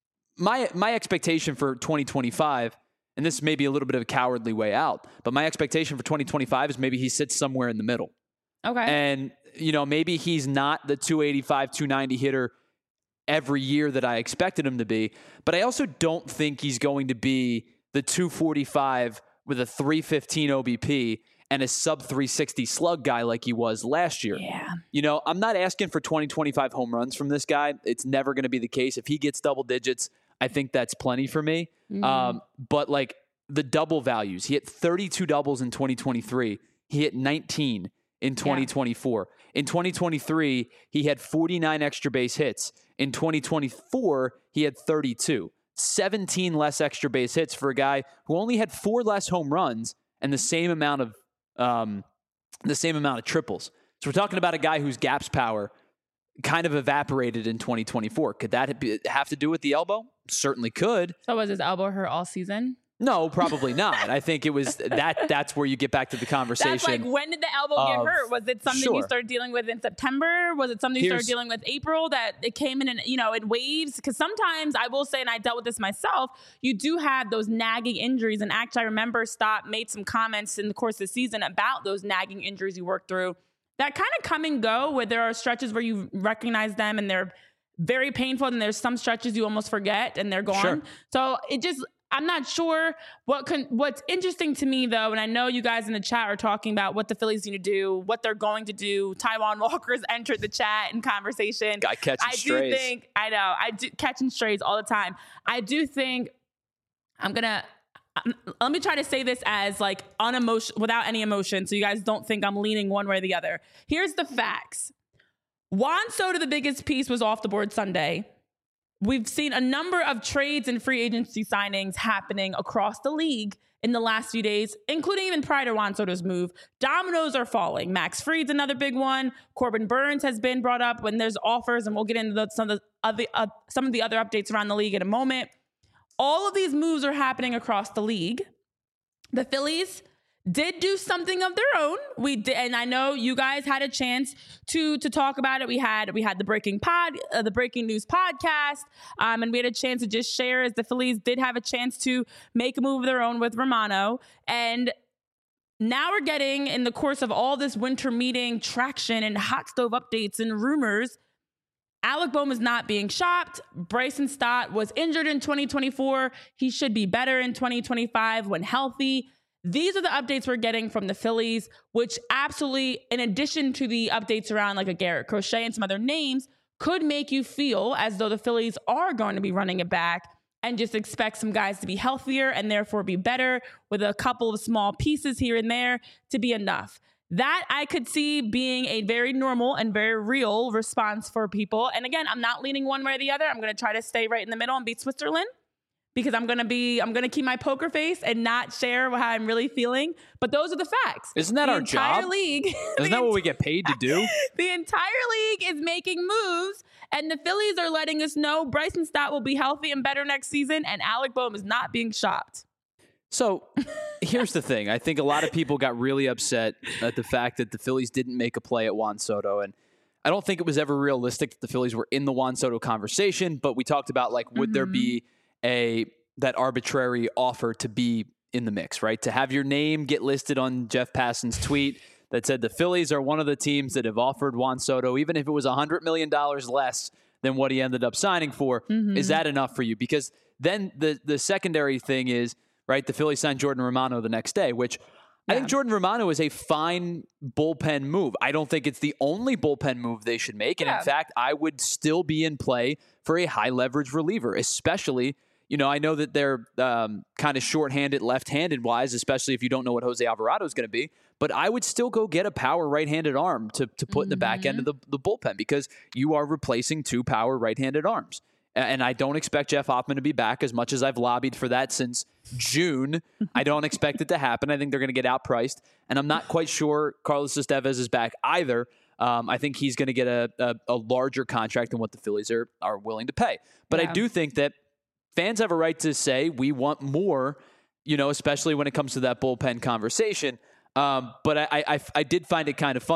my my expectation for twenty twenty-five, and this may be a little bit of a cowardly way out, but my expectation for twenty twenty-five is maybe he sits somewhere in the middle. Okay. And, you know, maybe he's not the two eighty-five, two ninety hitter every year that I expected him to be, but I also don't think he's going to be the two forty-five with a three fifteen O B P and a sub three sixty slug guy like he was last year. Yeah. You know, I'm not asking for twenty, twenty-five home runs from this guy. It's never going to be the case. If he gets double digits, I think that's plenty for me. Mm. Um, but like the double values, he hit thirty-two doubles in twenty twenty-three. He hit nineteen in twenty twenty-four. Yeah. In twenty twenty-three, he had forty-nine extra base hits. In twenty twenty-four, he had thirty-two. seventeen less extra base hits for a guy who only had four less home runs and the same amount of um, the same amount of triples. So we're talking about a guy whose gaps power kind of evaporated in twenty twenty-four. Could that be, have to do with the elbow? Certainly could. So was his elbow hurt all season? No, probably not. I think it was that. That's where you get back to the conversation. That's like, when did the elbow of, get hurt? Was it something sure. you started dealing with in September? Was it something you Here's, started dealing with April that it came in, and you know, in waves? Because sometimes I will say, and I dealt with this myself, you do have those nagging injuries. And actually, I remember Stott made some comments in the course of the season about those nagging injuries you work through that kind of come and go, where there are stretches where you recognize them and they're very painful, and there's some stretches you almost forget and they're gone. Sure. So it just, I'm not sure what can, what's interesting to me though, and I know you guys in the chat are talking about what the Phillies need to do, what they're going to do. Taijuan Walker's entered the chat in conversation. Guy catching I strays. do think, I know, I do catching strays all the time. I do think I'm gonna, um, let me try to say this as like unemotion, without any emotion, so you guys don't think I'm leaning one way or the other. Here's the facts. Juan Soto, the biggest piece, was off the board Sunday. We've seen a number of trades and free agency signings happening across the league in the last few days, including even prior to Juan Soto's move. Dominoes are falling. Max Fried's another big one. Corbin Burns has been brought up when there's offers, and we'll get into the, some of the other, uh, some of the other updates around the league in a moment. All of these moves are happening across the league. The Phillies did do something of their own. We did, and I know you guys had a chance to to talk about it. We had we had the breaking pod, uh, the breaking news podcast, um, and we had a chance to just share as the Phillies did have a chance to make a move of their own with Romano. And now we're getting, in the course of all this winter meeting traction and hot stove updates and rumors, Alec Bohm is not being shopped. Bryson Stott was injured in twenty twenty-four. He should be better in twenty twenty-five when healthy. These are the updates we're getting from the Phillies, which absolutely, in addition to the updates around like a Garrett Crochet and some other names, could make you feel as though the Phillies are going to be running it back and just expect some guys to be healthier and therefore be better with a couple of small pieces here and there to be enough. That I could see being a very normal and very real response for people. And again, I'm not leaning one way or the other. I'm going to try to stay right in the middle and be Switzerland, because I'm going to be, I'm going to keep my poker face and not share how I'm really feeling. But those are the facts. Isn't that the our entire job? League, Isn't that what we get paid to do? The entire league is making moves, and the Phillies are letting us know Bryson Stott will be healthy and better next season, and Alec Bohm is not being shopped. So here's the thing. I think a lot of people got really upset at the fact that the Phillies didn't make a play at Juan Soto. And I don't think it was ever realistic that the Phillies were in the Juan Soto conversation, but we talked about, like, would mm-hmm. there be a that arbitrary offer to be in the mix, right? To have your name get listed on Jeff Passan's tweet that said the Phillies are one of the teams that have offered Juan Soto, even if it was one hundred million dollars less than what he ended up signing for. Mm-hmm. Is that enough for you? Because then the the secondary thing is, right, the Phillies signed Jordan Romano the next day, which yeah. I think Jordan Romano is a fine bullpen move. I don't think it's the only bullpen move they should make. And yeah. in fact, I would still be in play for a high leverage reliever, especially, you know, I know that they're um, kind of shorthanded, left-handed wise, especially if you don't know what Jose Alvarado is going to be. But I would still go get a power right-handed arm to, to put mm-hmm. in the back end of the, the bullpen, because you are replacing two power right-handed arms. And I don't expect Jeff Hoffman to be back, as much as I've lobbied for that since June. I don't expect it to happen. I think they're going to get outpriced. And I'm not quite sure Carlos Estevez is back either. Um, I think he's going to get a, a, a larger contract than what the Phillies are, are willing to pay. But yeah. I do think that fans have a right to say we want more, you know, especially when it comes to that bullpen conversation. Um, but I, I, I did find it kind of funny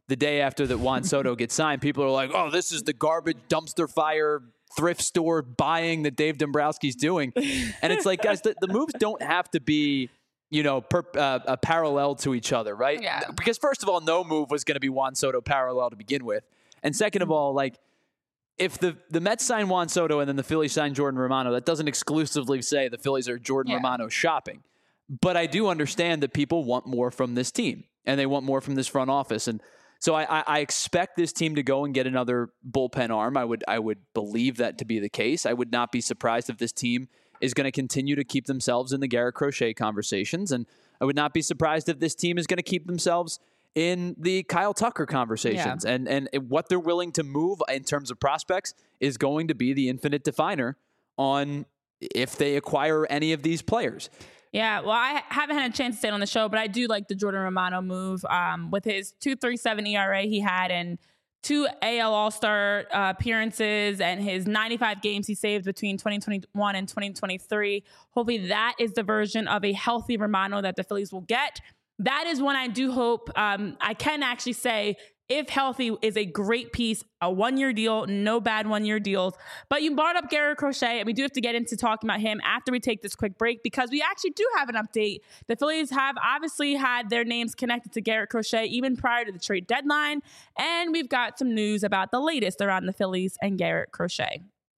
the day after that Juan Soto gets signed, people are like, oh, this is the garbage dumpster fire thrift store buying that Dave Dombrowski's doing. And it's like, guys, the, the moves don't have to be, you know, per, uh, a parallel to each other, right? Yeah. Because first of all, no move was going to be Juan Soto parallel to begin with. And second of all, like, if the, the Mets sign Juan Soto and then the Phillies sign Jordan Romano, that doesn't exclusively say the Phillies are Jordan Yeah. Romano shopping. But I do understand that people want more from this team and they want more from this front office. And so I, I, I expect this team to go and get another bullpen arm. I would I would believe that to be the case. I would not be surprised if this team is going to continue to keep themselves in the Garrett Crochet conversations. And I would not be surprised if this team is going to keep themselves in the Kyle Tucker conversations. Yeah. And and what they're willing to move in terms of prospects is going to be the infinite definer on if they acquire any of these players. Yeah, well, I haven't had a chance to say it on the show, but I do like the Jordan Romano move. Um, with his two point three seven E R A he had and two A L All-Star uh, appearances and his ninety-five games he saved between twenty twenty-one and twenty twenty-three. Hopefully that is the version of a healthy Romano that the Phillies will get. That is one I do hope. Um, I can actually say, if healthy, is a great piece, a one-year deal, no bad one-year deals. But you brought up Garrett Crochet, and we do have to get into talking about him after we take this quick break because we actually do have an update. The Phillies have obviously had their names connected to Garrett Crochet even prior to the trade deadline, and we've got some news about the latest around the Phillies and Garrett Crochet.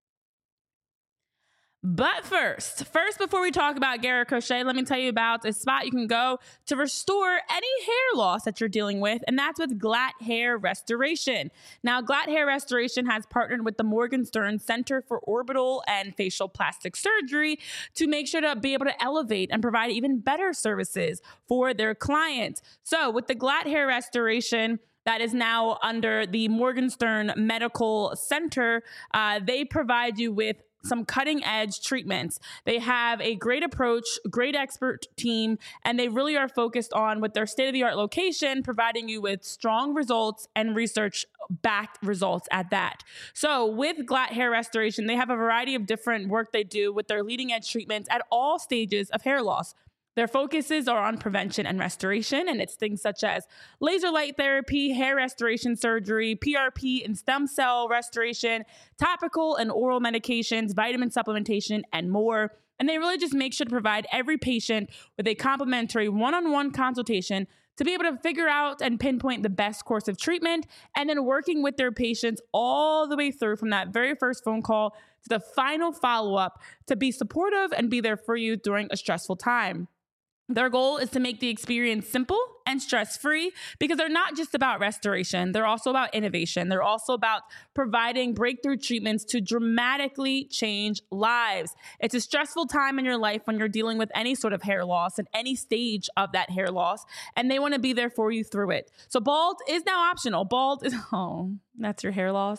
But first, first, before we talk about Garrett Crochet, let me tell you about a spot you can go to restore any hair loss that you're dealing with, and that's with Glatt Hair Restoration. Now, Glatt Hair Restoration has partnered with the Morgenstern Center for Orbital and Facial Plastic Surgery to make sure to be able to elevate and provide even better services for their clients. So, with the Glatt Hair Restoration, that is now under the Morgenstern Medical Center, uh, they provide you with some cutting edge treatments. They have a great approach, great expert team, and they really are focused on, with their state of the art location, providing you with strong results and research backed results at that. So with Glatt Hair Restoration, they have a variety of different work they do with their leading edge treatments at all stages of hair loss. Their focuses are on prevention and restoration, and it's things such as laser light therapy, hair restoration surgery, P R P and stem cell restoration, topical and oral medications, vitamin supplementation, and more. And they really just make sure to provide every patient with a complimentary one-on-one consultation to be able to figure out and pinpoint the best course of treatment, and then working with their patients all the way through from that very first phone call to the final follow-up to be supportive and be there for you during a stressful time. Their goal is to make the experience simple and stress-free because they're not just about restoration. They're also about innovation. They're also about providing breakthrough treatments to dramatically change lives. It's a stressful time in your life when you're dealing with any sort of hair loss at any stage of that hair loss, and they want to be there for you through it. So bald is now optional. Bald is, oh, that's your hair loss.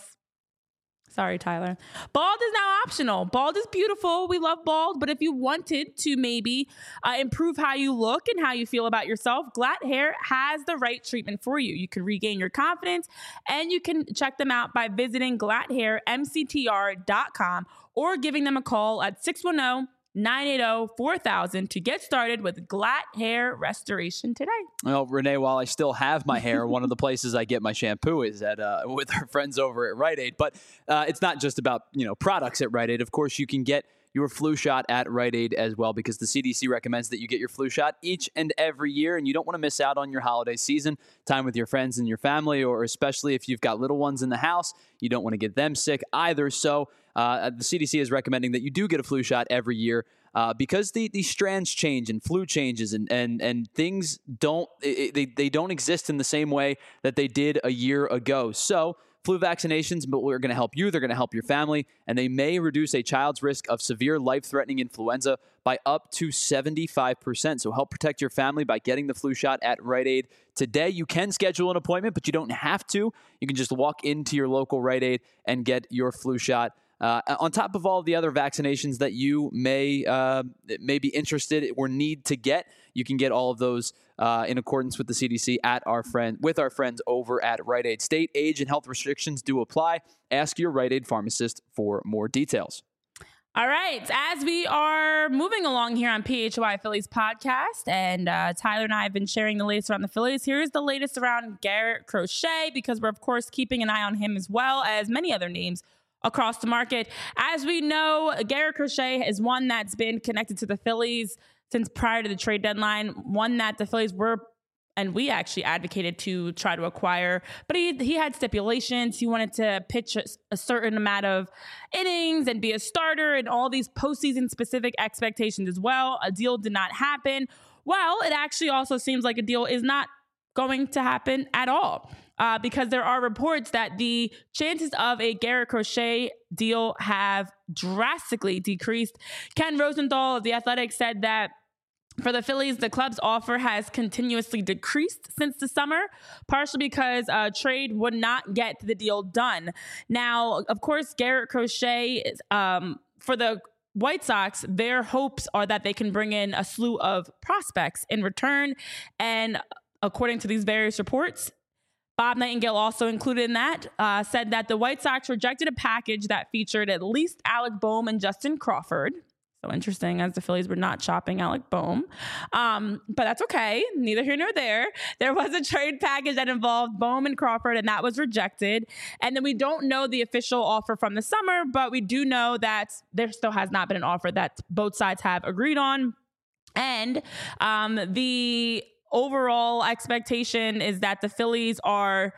Sorry, Tyler. Bald is now optional. Bald is beautiful. We love bald. But if you wanted to maybe uh, improve how you look and how you feel about yourself, Glatt Hair has the right treatment for you. You can regain your confidence, and you can check them out by visiting glatt hair m c t r dot com or giving them a call at six one zero, nine eight zero, four thousand to get started with Glatt Hair Restoration today. Well, Renee, while I still have my hair, one of the places I get my shampoo is at uh, with our friends over at Rite Aid. But uh, it's not just about, you know, products at Rite Aid. Of course, you can get your flu shot at Rite Aid as well, because the C D C recommends that you get your flu shot each and every year, and you don't want to miss out on your holiday season, time with your friends and your family, or especially if you've got little ones in the house, you don't want to get them sick either. So uh, the C D C is recommending that you do get a flu shot every year. Uh, because the, the strands change and flu changes and and and things don't it, they they don't exist in the same way that they did a year ago. So flu vaccinations, but we're going to help you. They're going to help your family, and they may reduce a child's risk of severe life-threatening influenza by up to seventy-five percent. So help protect your family by getting the flu shot at Rite Aid today. You can schedule an appointment, but you don't have to. You can just walk into your local Rite Aid and get your flu shot. Uh, on top of all the other vaccinations that you may uh, may be interested or need to get, you can get all of those uh, in accordance with the C D C at our friend with our friends over at Rite Aid. State, age, and health restrictions do apply. Ask your Rite Aid pharmacist for more details. All right. As we are moving along here on P H Y Phillies podcast, and uh, Tyler and I have been sharing the latest around the Phillies, here's the latest around Garrett Crochet, because we're, of course, keeping an eye on him as well as many other names across the market. As we know, Garrett Crochet is one that's been connected to the Phillies since prior to the trade deadline, one that the Phillies were and we actually advocated to try to acquire, but he he had stipulations. He wanted to pitch a, a certain amount of innings and be a starter and all these postseason specific expectations as well. A deal did not happen. Well, it actually also seems like a deal is not going to happen at all uh, because there are reports that the chances of a Garrett Crochet deal have drastically decreased. Ken Rosenthal of The Athletic said that for the Phillies, the club's offer has continuously decreased since the summer, partially because a trade would not get the deal done. Now, of course, Garrett Crochet, is, um, for the White Sox, their hopes are that they can bring in a slew of prospects in return. And according to these various reports, Bob Nightingale, also included in that, uh, said that the White Sox rejected a package that featured at least Alec Bohm and Justin Crawford. So interesting, as the Phillies were not shopping Alec Bohm. Um, but that's okay. Neither here nor there. There was a trade package that involved Bohm and Crawford, and that was rejected. And then we don't know the official offer from the summer, but we do know that there still has not been an offer that both sides have agreed on. And um, the overall expectation is that the Phillies are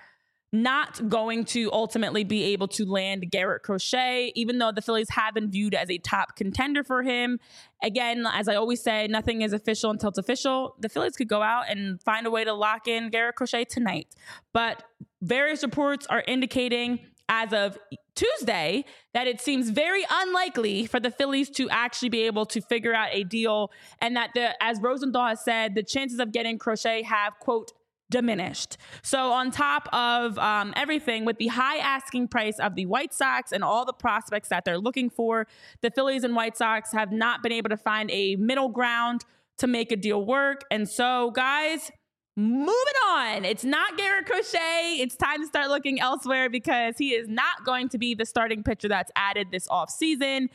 not going to ultimately be able to land Garrett Crochet, even though the Phillies have been viewed as a top contender for him. Again, as I always say, nothing is official until it's official. The Phillies could go out and find a way to lock in Garrett Crochet tonight. But various reports are indicating as of Tuesday that it seems very unlikely for the Phillies to actually be able to figure out a deal, and that, the, as Rosenthal has said, the chances of getting Crochet have, quote, diminished. So on top of um, everything, with the high asking price of the White Sox and all the prospects that they're looking for, the Phillies and White Sox have not been able to find a middle ground to make a deal work. And so, guys, moving on. It's not Garrett Crochet. It's time to start looking elsewhere because he is not going to be the starting pitcher that's added this offseason.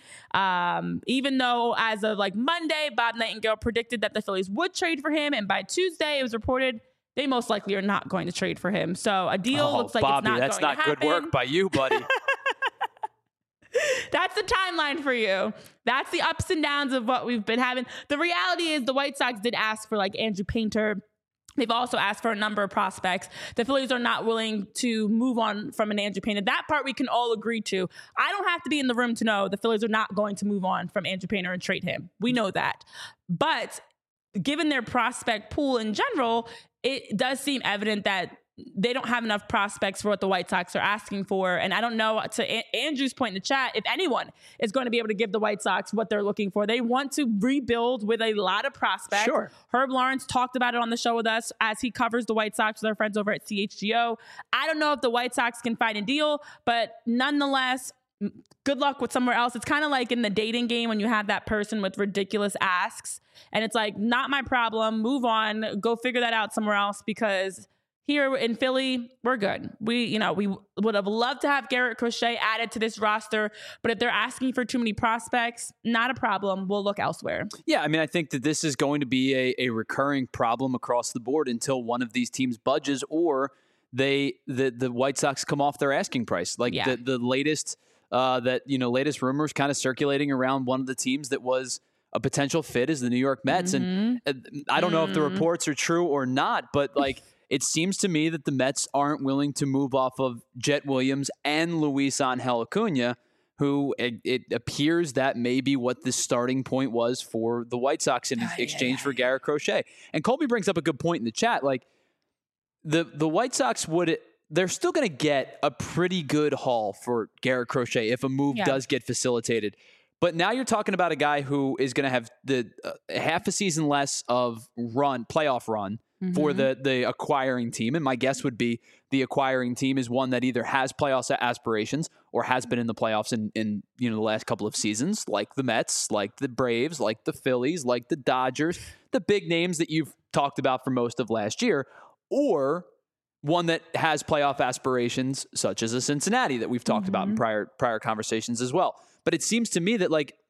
Um, even though as of like Monday, Bob Nightingale predicted that the Phillies would trade for him. And by Tuesday, it was reported they most likely are not going to trade for him. So a deal oh, looks like Bobby, it's not that's going not to happen. Good work by you, buddy. That's the timeline for you. That's the ups and downs of what we've been having. The reality is the White Sox did ask for like Andrew Painter. They've also asked for a number of prospects. The Phillies are not willing to move on from an Andrew Painter. That part we can all agree to. I don't have to be in the room to know the Phillies are not going to move on from Andrew Painter and trade him. We know that. But given their prospect pool in general, it does seem evident that they don't have enough prospects for what the White Sox are asking for. And I don't know, to a- Andrew's point in the chat, if anyone is going to be able to give the White Sox what they're looking for. They want to rebuild with a lot of prospects. Sure. Herb Lawrence talked about it on the show with us as he covers the White Sox with our friends over at C H G O. I don't know if the White Sox can find a deal, but nonetheless, good luck with somewhere else. It's kind of like in the dating game when you have that person with ridiculous asks and it's like, not my problem, move on, go figure that out somewhere else, because here in Philly, we're good. We, you know, we would have loved to have Garrett Crochet added to this roster, but if they're asking for too many prospects, not a problem. We'll look elsewhere. Yeah, I mean, I think that this is going to be a, a recurring problem across the board until one of these teams budges or they the the White Sox come off their asking price. Like Yeah. the the latest uh, that you know latest rumors kind of circulating around one of the teams that was a potential fit is the New York Mets, Mm-hmm. and uh, I don't know if the reports are true or not, but like. It seems to me that the Mets aren't willing to move off of Jet Williams and Luis Angel Acuna, who it, it appears that may be what the starting point was for the White Sox in Yeah, exchange yeah, for Garrett Crochet. And Colby brings up a good point in the chat. Like the the White Sox would they're still going to get a pretty good haul for Garrett Crochet if a move Yeah. does get facilitated. But now you're talking about a guy who is going to have the uh, half a season less of run playoff run. Mm-hmm. For the the acquiring team. And my guess would be the acquiring team is one that either has playoff aspirations or has been in the playoffs in, in you know the last couple of seasons, like the Mets, like the Braves, like the Phillies, like the Dodgers, the big names that you've talked about for most of last year, or one that has playoff aspirations, such as a Cincinnati that we've talked mm-hmm. about in prior prior conversations as well. But it seems to me that like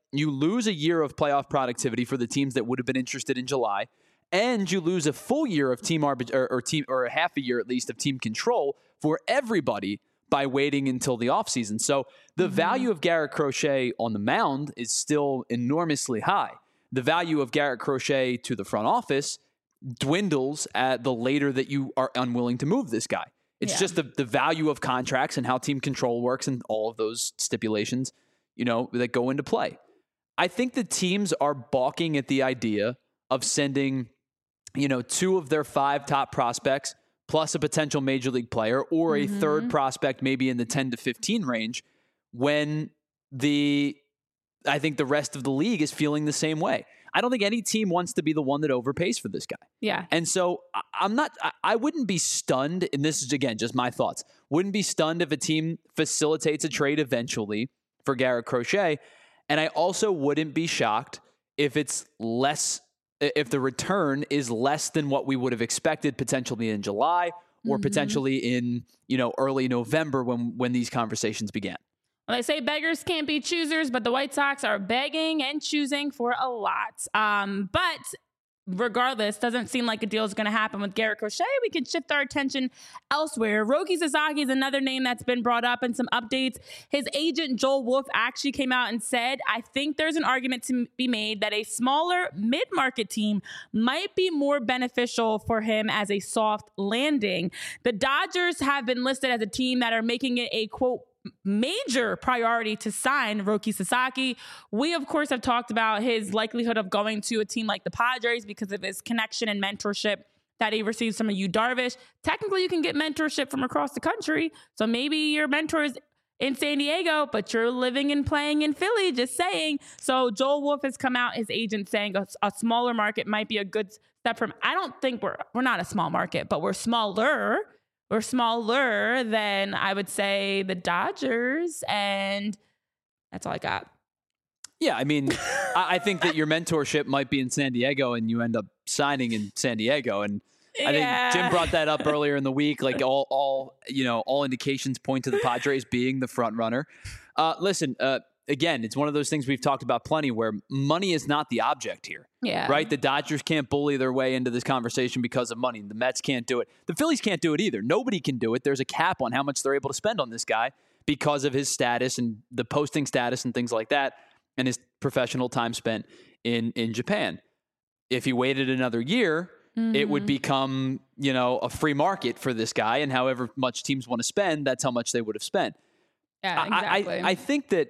you lose a year of playoff productivity for the teams that would have been interested in July, and you lose a full year of team arbit- or, or team or a half a year at least of team control for everybody by waiting until the offseason. So the mm-hmm. value of Garrett Crochet on the mound is still enormously high. The value of Garrett Crochet to the front office dwindles at the later that you are unwilling to move this guy. It's yeah. just the, the value of contracts and how team control works and all of those stipulations, you know, that go into play. I think the teams are balking at the idea of sending, you know, two of their five top prospects plus a potential major league player or a mm-hmm. third prospect maybe in the ten to fifteen range when the, I think the rest of the league is feeling the same way. I don't think any team wants to be the one that overpays for this guy. Yeah. And so I'm not, I wouldn't be stunned, and this is, again, just my thoughts, wouldn't be stunned if a team facilitates a trade eventually for Garrett Crochet. And I also wouldn't be shocked if it's less, if the return is less than what we would have expected potentially in July or mm-hmm. potentially in, you know, early November when, when these conversations began. Well, they say beggars can't be choosers, but the White Sox are begging and choosing for a lot. Um, but regardless, doesn't seem like a deal is going to happen with Garrett Crochet. We can shift our attention elsewhere. Roki Sasaki is another name that's been brought up in some updates. His agent, Joel Wolfe, actually came out and said, I think there's an argument to be made that a smaller mid-market team might be more beneficial for him as a soft landing. The Dodgers have been listed as a team that are making it a, quote, major priority to sign Roki Sasaki. We, of course, have talked about his likelihood of going to a team like the Padres because of his connection and mentorship that he receives from a Yu Darvish. Technically, you can get mentorship from across the country. So maybe your mentor is in San Diego, but you're living and playing in Philly, just saying. So Joel Wolfe has come out, his agent, saying a, a smaller market might be a good step from, I don't think we're, we're not a small market, but we're smaller. We're smaller than, I would say, the Dodgers, and that's all I got. Yeah, I mean, I think that your mentorship might be in San Diego, and you end up signing in San Diego. And I yeah. think Jim brought that up earlier in the week. Like all, all you know, all indications point to the Padres being the front runner. Uh, listen, uh, again, it's one of those things we've talked about plenty where money is not the object here. Yeah. Right? The Dodgers can't bully their way into this conversation because of money. The Mets can't do it. The Phillies can't do it either. Nobody can do it. There's a cap on how much they're able to spend on this guy because of his status and the posting status and things like that and his professional time spent in, in Japan. If he waited another year, mm-hmm. it would become, you know, a free market for this guy, and however much teams want to spend, that's how much they would have spent. Yeah, exactly. I, I, I think that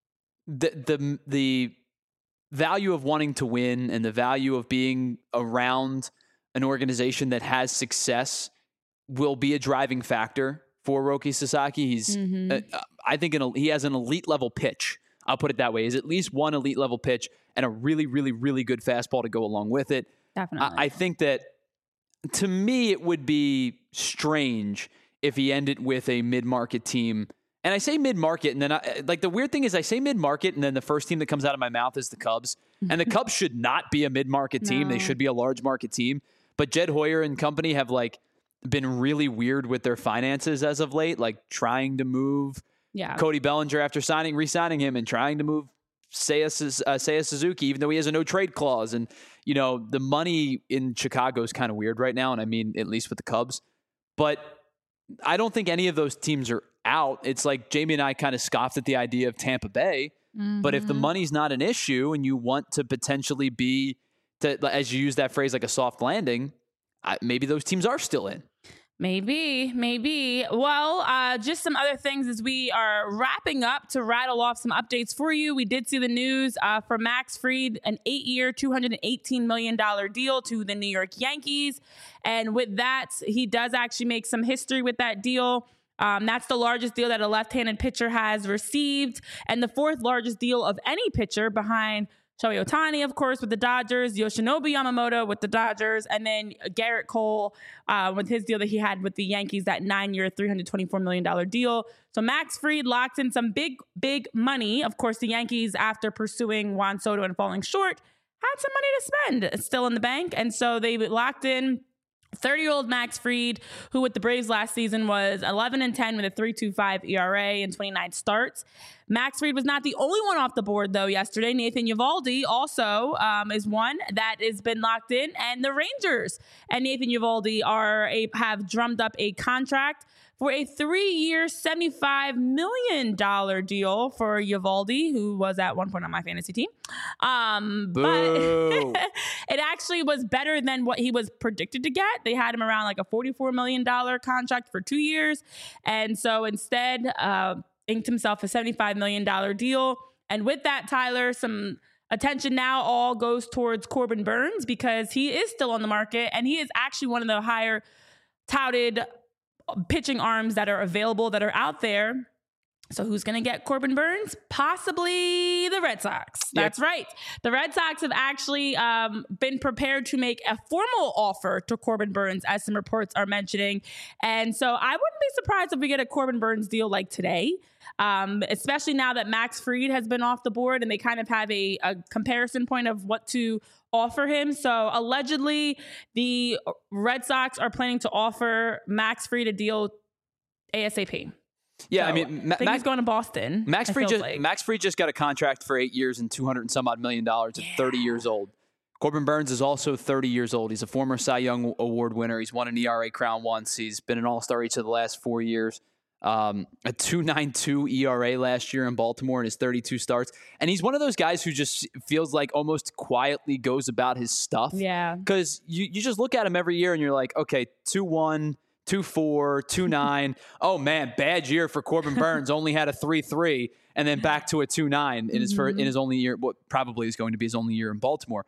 The, the the value of wanting to win and the value of being around an organization that has success will be a driving factor for Roki Sasaki. He's, mm-hmm. uh, I think, an, he has an elite level pitch. I'll put it that way. He's at least one elite level pitch and a really, really, really good fastball to go along with it. Definitely. I, I think that to me, it would be strange if he ended with a mid-market team. And I say mid-market, and then I, like the weird thing is I say mid-market, and then the first team that comes out of my mouth is the Cubs. And the Cubs should not be a mid-market team. No. They should be a large market team. But Jed Hoyer and company have like been really weird with their finances as of late, like trying to move yeah. Cody Bellinger after signing, re-signing him, and trying to move Seiya, uh, Seiya Suzuki, even though he has a no-trade clause. And, you know, the money in Chicago is kind of weird right now, and I mean, at least with the Cubs. But I don't think any of those teams are out. It's like Jamie and I kind of scoffed at the idea of Tampa Bay, mm-hmm. but if the money's not an issue and you want to potentially be, to, as you use that phrase, like a soft landing, I, maybe those teams are still in. Maybe, maybe. Well, uh, just some other things as we are wrapping up to rattle off some updates for you. We did see the news uh, for Max Fried, an eight-year, two hundred eighteen million dollars deal to the New York Yankees. And with that, he does actually make some history with that deal. Um, that's the largest deal that a left-handed pitcher has received, and the fourth largest deal of any pitcher behind Shohei Ohtani, of course, with the Dodgers, Yoshinobu Yamamoto with the Dodgers, and then Garrett Cole uh, with his deal that he had with the Yankees, that nine-year, three hundred twenty-four million dollars deal. So Max Fried locked in some big, big money. Of course, the Yankees, after pursuing Juan Soto and falling short, had some money to spend still in the bank, and so they locked in thirty-year-old Max Fried, who with the Braves last season was eleven and ten with a three point two five E R A and twenty-nine starts. Max Fried was not the only one off the board, though, yesterday. Nathan Eovaldi also um, is one that has been locked in, and the Rangers and Nathan Eovaldi are a, have drummed up a contract for a three-year, seventy-five million dollars deal for Eovaldi, who was at one point on my fantasy team. Um, but it actually was better than what he was predicted to get. They had him around like a forty-four million dollars contract for two years. And so instead, uh, inked himself a seventy-five million dollars deal. And with that, Tyler, some attention now all goes towards Corbin Burnes because he is still on the market, and he is actually one of the higher touted pitching arms that are available, that are out there. So who's going to get Corbin Burnes? Possibly the Red Sox. That's yep. right. The Red Sox have actually um, been prepared to make a formal offer to Corbin Burnes, as some reports are mentioning. And so I wouldn't be surprised if we get a Corbin Burnes deal like today, um, especially now that Max Fried has been off the board and they kind of have a, a comparison point of what to offer him. So allegedly, the Red Sox are planning to offer Max Fried a deal ASAP. Yeah, so, I mean, Ma- I think Max, he's going to Boston. Max Fried just like. Max Fried just got a contract for eight years and two hundred and some odd million dollars at yeah. thirty years old. Corbin Burnes is also thirty years old. He's a former Cy Young Award winner. He's won an E R A crown once. He's been an All-Star each of the last four years. Um, a two point nine two E R A last year in Baltimore in his thirty-two starts. And he's one of those guys who just feels like almost quietly goes about his stuff. Yeah. Because you, you just look at him every year and you're like, okay, two one, two four, two nine. Oh, man, bad year for Corbin Burnes. Only had a three three and then back to a two nine in his, mm-hmm. first, in his only year, what probably is going to be his only year in Baltimore.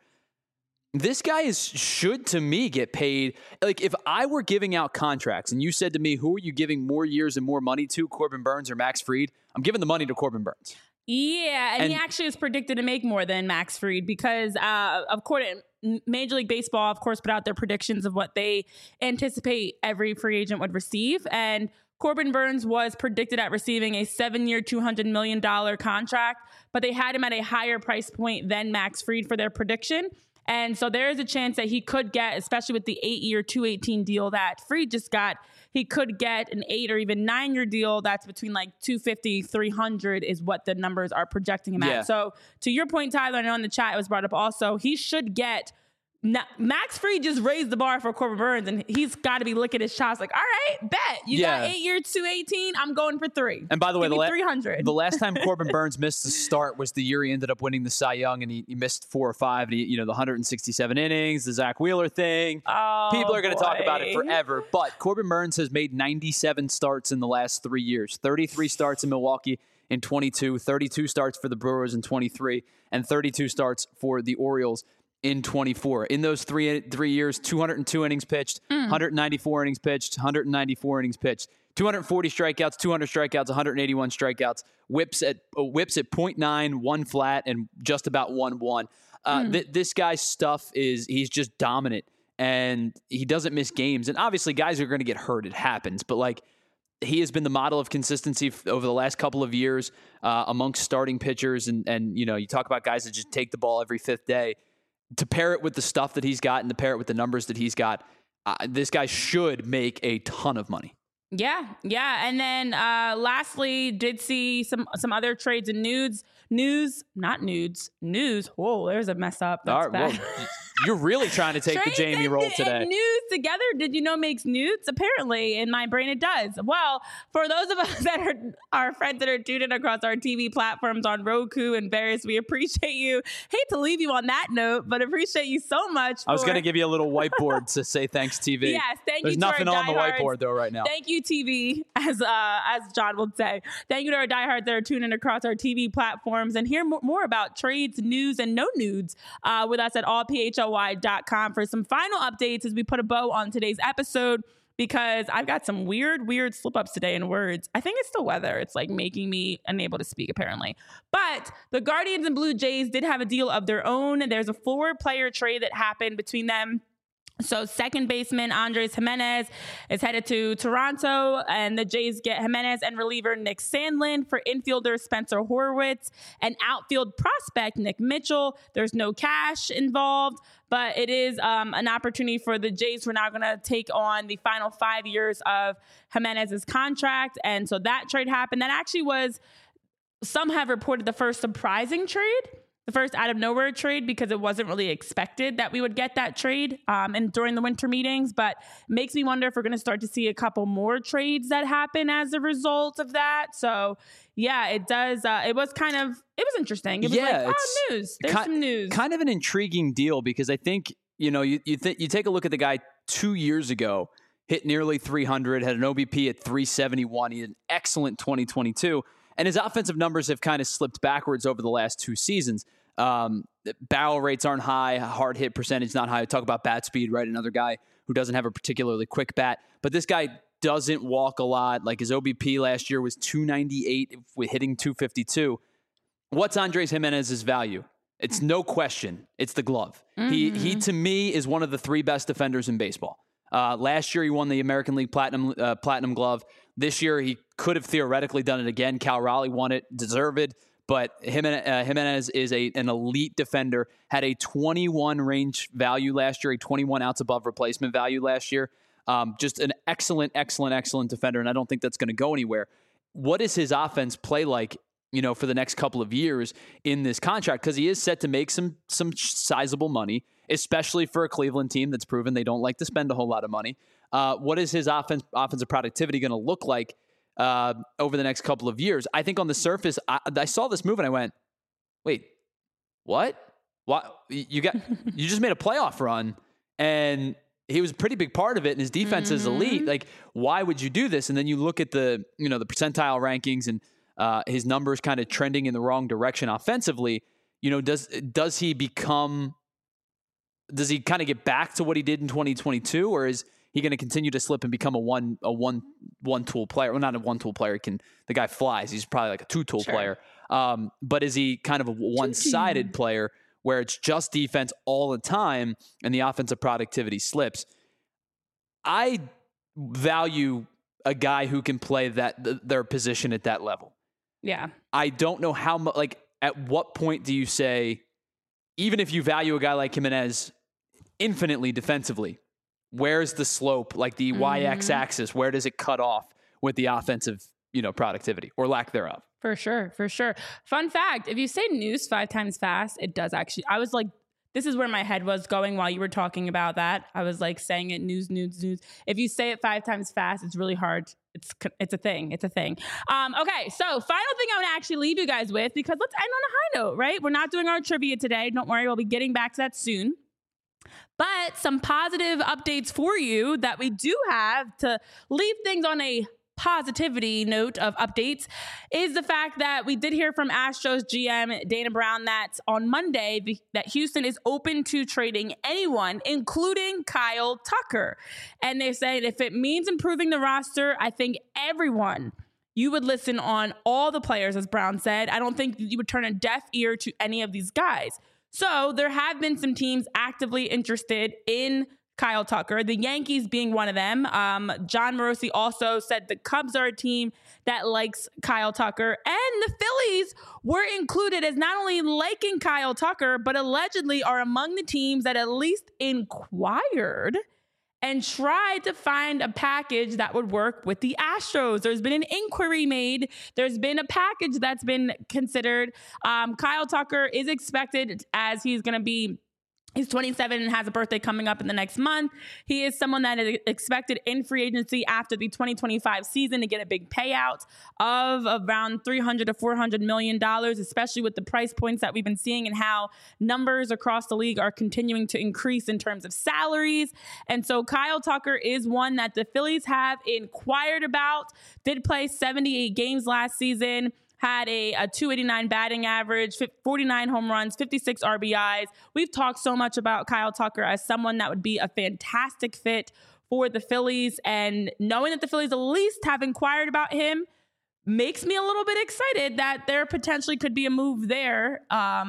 This guy is should, to me, get paid. Like, if I were giving out contracts and you said to me, who are you giving more years and more money to, Corbin Burnes or Max Fried? I'm giving the money to Corbin Burnes. Yeah, and, and he actually is predicted to make more than Max Fried because, uh, of course, Major League Baseball, of course, put out their predictions of what they anticipate every free agent would receive. And Corbin Burnes was predicted at receiving a seven-year, two hundred million dollars contract, but they had him at a higher price point than Max Fried for their prediction. And so there is a chance that he could get, especially with the eight-year, two eighteen deal that Fried just got, he could get an eight or even nine-year deal that's between like two fifty, three hundred is what the numbers are projecting him yeah. at. So to your point, Tyler, I know in the chat it was brought up also, he should get Now, Max Fried just raised the bar for Corbin Burnes, and he's got to be licking his chops like, all right, bet. You yeah. got eight year two eighteen. I'm going for three. And by the way, the, la- three hundred. the last time Corbin Burnes missed the start was the year he ended up winning the Cy Young, and he, he missed four or five. And he, you know, the one hundred sixty-seven innings, the Zach Wheeler thing. Oh, People are going to boy. talk about it forever. But Corbin Burnes has made ninety-seven starts in the last three years. thirty-three starts in Milwaukee in twenty-two, thirty-two starts for the Brewers in twenty-three, and thirty-two starts for the Orioles in twenty-four. In those three three years, two hundred two innings pitched, mm. one hundred ninety-four innings pitched, one hundred ninety-four innings pitched, two hundred forty strikeouts, two hundred strikeouts, one hundred eighty-one strikeouts, whips at uh, whips at point nine, one flat, and just about one one. Uh, mm. th- this guy's stuff is he's just dominant, and he doesn't miss games. And obviously, guys are going to get hurt. It happens, but like. He has been the model of consistency f- over the last couple of years uh, amongst starting pitchers. And, and, you know, you talk about guys that just take the ball every fifth day. To pair it with the stuff that he's got and to pair it with the numbers that he's got, uh, this guy should make a ton of money. Yeah, yeah. And then uh, lastly, did see some some other trades and nudes. News, not nudes, news. Whoa, there's a mess up. That's All right, bad. Well, you're really trying to take Trades the Jamie and, role today. And news together, did you know makes nudes? Apparently, in my brain, it does. Well, for those of us that are our friends that are tuned in across our T V platforms on Roku and various, we appreciate you. Hate to leave you on that note, but appreciate you so much. For, I was going to give you a little whiteboard to say thanks, T V. Yes, thank There's you. There's nothing on the whiteboard though right now. Thank you, T V, as uh, as John would say. Thank you to our diehards that are tuning in across our T V platforms and hear more, more about trades, news, and no nudes uh, with us at all p h l y dot com for some final updates as we put a bow on today's episode, because I've got some weird, weird slip-ups today in words. I think it's the weather. It's like making me unable to speak, apparently. But the Guardians and Blue Jays did have a deal of their own. There's a four-player trade that happened between them So second baseman Andres Gimenez is headed to Toronto, and the Jays get Gimenez and reliever Nick Sandlin. For infielder Spencer Horwitz and outfield prospect Nick Mitchell. There's no cash involved, but it is um, an opportunity for the Jays who are now going to take on the final five years of Gimenez's contract. And so that trade happened. That actually was, some have reported, the first surprising trade. The first out of nowhere trade, because it wasn't really expected that we would get that trade um, and during the winter meetings. But it makes me wonder if we're going to start to see a couple more trades that happen as a result of that. So yeah, it does. Uh, it was kind of, it was interesting. It was yeah, like, oh, news. There's ki- some news. Kind of an intriguing deal, because I think, you know, you you, th- you take a look at the guy two years ago, hit nearly three hundred, had an O B P at three seventy-one. He had an excellent twenty twenty-two. And his offensive numbers have kind of slipped backwards over the last two seasons. Um, barrel rates aren't high, hard hit percentage not high. Talk about bat speed, right? Another guy who doesn't have a particularly quick bat, but this guy doesn't walk a lot. Like his O B P last year was two ninety-eight with hitting two fifty-two. What's Andres Gimenez's value? It's no question. It's the glove. Mm-hmm. He, he to me is one of the three best defenders in baseball. Uh, last year, he won the American League Platinum uh, Platinum Glove. This year, he could have theoretically done it again. Cal Raleigh won it, deserved. But Jimenez, uh, Jimenez is a an elite defender. Had a twenty-one range value last year, a twenty-one outs above replacement value last year. Um, just an excellent, excellent, excellent defender, and I don't think that's going to go anywhere. What does his offense play like, you know, for the next couple of years in this contract? Because he is set to make some some sizable money, especially for a Cleveland team that's proven they don't like to spend a whole lot of money. Uh, what is his offense, offensive productivity going to look like uh, over the next couple of years? I think on the surface, I, I saw this move and I went, wait, what? What? You got, you just made a playoff run and he was a pretty big part of it and his defense mm-hmm. is elite. Like, why would you do this? And then you look at the, you know, the percentile rankings and uh, his numbers kind of trending in the wrong direction offensively. You know, does, does he become, does he kind of get back to what he did in twenty twenty-two, or is he going to continue to slip and become a one a one one tool player? Well, not a one tool player. He can the guy flies. He's probably like a two tool sure. player. Um, but is he kind of a one sided player where it's just defense all the time and the offensive productivity slips? I value a guy who can play that th- their position at that level. Yeah, I don't know how much. Like, at what point do you say, even if you value a guy like Gimenez infinitely defensively, where's the slope, like the mm-hmm. y-axis, where does it cut off with the offensive, you know, productivity or lack thereof? For sure, for sure. Fun fact, if you say news five times fast, it does actually, I was like, this is where my head was going while you were talking about that. I was like saying it, news, news, news. If you say it five times fast, it's really hard. It's it's a thing. It's a thing. Um, okay, so final thing I want to actually leave you guys with, because let's end on a high note, right? We're not doing our trivia today. Don't worry, we'll be getting back to that soon. But some positive updates for you that we do have to leave things on a positivity note of updates is the fact that we did hear from Astros G M Dana Brown that on Monday the, that Houston is open to trading anyone, including Kyle Tucker. And they said if it means improving the roster, I think everyone, you would listen on all the players, as Brown said. I don't think you would turn a deaf ear to any of these guys. So there have been some teams actively interested in Kyle Tucker, the Yankees being one of them. Um, John Morosi also said the Cubs are a team that likes Kyle Tucker, and the Phillies were included as not only liking Kyle Tucker, but allegedly are among the teams that at least inquired and tried to find a package that would work with the Astros. There's been an inquiry made. There's been a package that's been considered. Um, Kyle Tucker is expected, as he's going to be He's twenty-seven and has a birthday coming up in the next month. He is someone that is expected in free agency after the twenty twenty-five season to get a big payout of around three hundred to four hundred million dollars, especially with the price points that we've been seeing and how numbers across the league are continuing to increase in terms of salaries. And so Kyle Tucker is one that the Phillies have inquired about, did play seventy-eight games last season, had a, a two eighty-nine batting average, forty-nine home runs, fifty-six R B Is. We've talked so much about Kyle Tucker as someone that would be a fantastic fit for the Phillies. And knowing that the Phillies at least have inquired about him makes me a little bit excited that there potentially could be a move there. Um,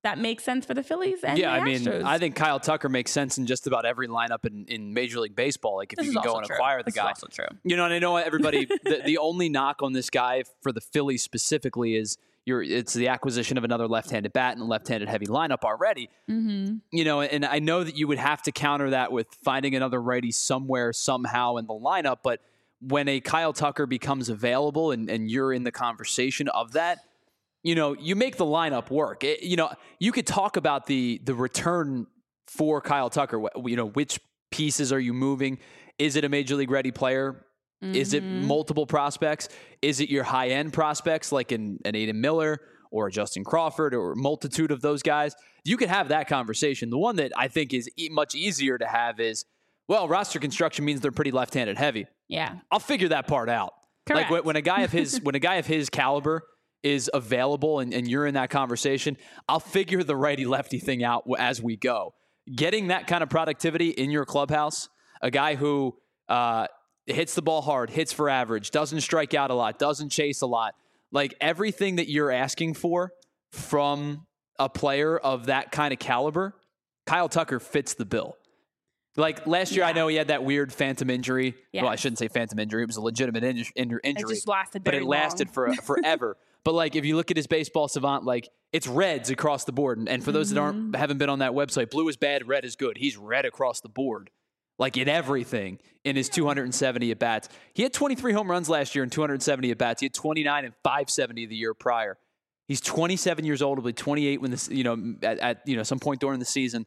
that makes sense for the Phillies and yeah, the I mean, Astros. I think Kyle Tucker makes sense in just about every lineup in, in Major League Baseball. Like if This you is can go also and true. acquire the This guy. is also true. You know, and I know everybody, the, the only knock on this guy for the Phillies specifically is you're, it's the acquisition of another left-handed bat and a left-handed heavy lineup already. Mm-hmm. You know, and I know that you would have to counter that with finding another righty somewhere, somehow in the lineup. But when a Kyle Tucker becomes available and, and you're in the conversation of that, you know, you make the lineup work. It, you know, you could talk about the the return for Kyle Tucker. You know, which pieces are you moving? Is it a Major League ready player? Mm-hmm. Is it multiple prospects? Is it your high-end prospects like an, an Aiden Miller or a Justin Crawford or a multitude of those guys? You could have that conversation. The one that I think is e- much easier to have is, well, roster construction means they're pretty left-handed heavy. Yeah. I'll figure that part out. Correct. Like when, when a guy of his when a guy of his caliber is available and, and you're in that conversation, I'll figure the righty-lefty thing out as we go. Getting that kind of productivity in your clubhouse, a guy who uh, hits the ball hard, hits for average, doesn't strike out a lot, doesn't chase a lot, like everything that you're asking for from a player of that kind of caliber, Kyle Tucker fits the bill. Like last year, Yeah. I know he had that weird phantom injury. Yeah. Well, I shouldn't say phantom injury. It was a legitimate in- in- injury. It just lasted but very it lasted long. for forever. But like, if you look at his baseball savant, like it's reds across the board. And, and for those Mm-hmm. that aren't haven't been on that website, blue is bad, red is good. He's red across the board, like in everything. In his two hundred seventy at bats, he had twenty-three home runs last year and two hundred seventy at bats. He had twenty-nine and five seventy the year prior. He's twenty-seven years old. He'll be twenty-eight when this, you know, at, at you know some point during the season.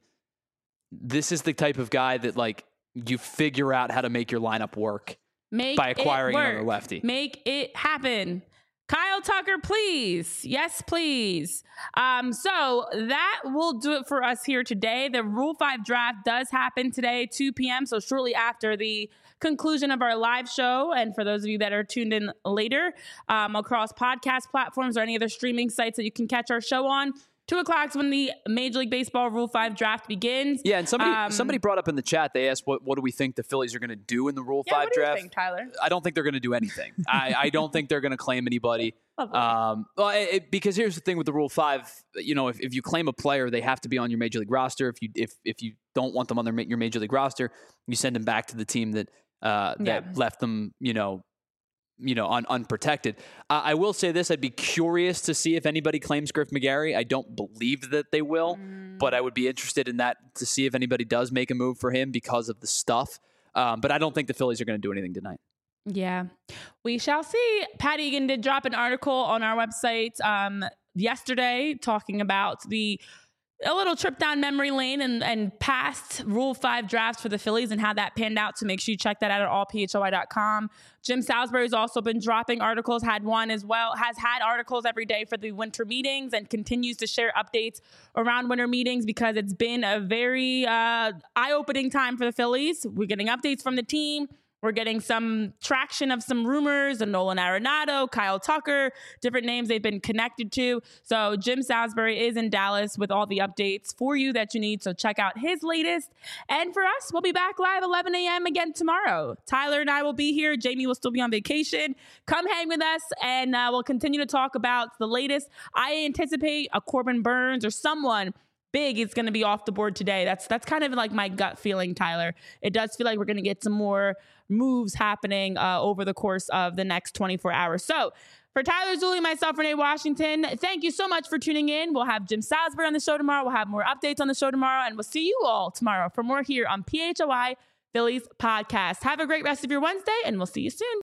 This is the type of guy that like you figure out how to make your lineup work Make by it acquiring work. another lefty. Make it happen. Kyle Tucker, please. Yes, please. Um, so that will do it for us here today. The Rule five draft does happen today, two p.m., so shortly after the conclusion of our live show. And for those of you that are tuned in later um, across podcast platforms or any other streaming sites that you can catch our show on, two o'clock is when the Major League Baseball Rule five draft begins. Yeah, and somebody Um, somebody brought up in the chat, they asked, what, what do we think the Phillies are going to do in the Rule Yeah, five what do you draft? think, Tyler? I don't think they're going to do anything. I, I don't think they're going to claim anybody. Lovely. Um, well, it, it- because here's the thing with the Rule five, you know, if, if you claim a player, they have to be on your Major League roster. If you if if you don't want them on their ma- your Major League roster, you send them back to the team that uh, that Yeah. left them, you know, you know, un, unprotected. Uh, I will say this: I'd be curious to see if anybody claims Griff McGarry. I don't believe that they will, Mm. but I would be interested in that to see if anybody does make a move for him because of the stuff. Um, but I don't think the Phillies are going to do anything tonight. Yeah, we shall see. Pat Egan did drop an article on our website um, yesterday talking about the a little trip down memory lane and, and past Rule five drafts for the Phillies and how that panned out. So make sure you check that out at all p h o y dot com. Jim Salisbury's also been dropping articles, had one as well, has had articles every day for the winter meetings and continues to share updates around winter meetings because it's been a very uh, eye-opening time for the Phillies. We're getting updates from the team. We're getting some traction of some rumors of Nolan Arenado, Kyle Tucker, different names they've been connected to. So Jim Salisbury is in Dallas with all the updates for you that you need. So check out his latest. And for us, we'll be back live eleven a.m. again tomorrow. Tyler and I will be here. Jamie will still be on vacation. Come hang with us and uh, we'll continue to talk about the latest. I anticipate a Corbin Burns or someone big is going to be off the board today. That's that's kind of like my gut feeling, Tyler. It does feel like we're going to get some more moves happening uh, over the course of the next twenty-four hours. So for Tyler Zulli, myself, Renee Washington, thank you so much for tuning in. We'll have Jim Salisbury on the show tomorrow. We'll have more updates on the show tomorrow, and we'll see you all tomorrow for more here on P H O I Phillies Podcast. Have a great rest of your Wednesday, and we'll see you soon.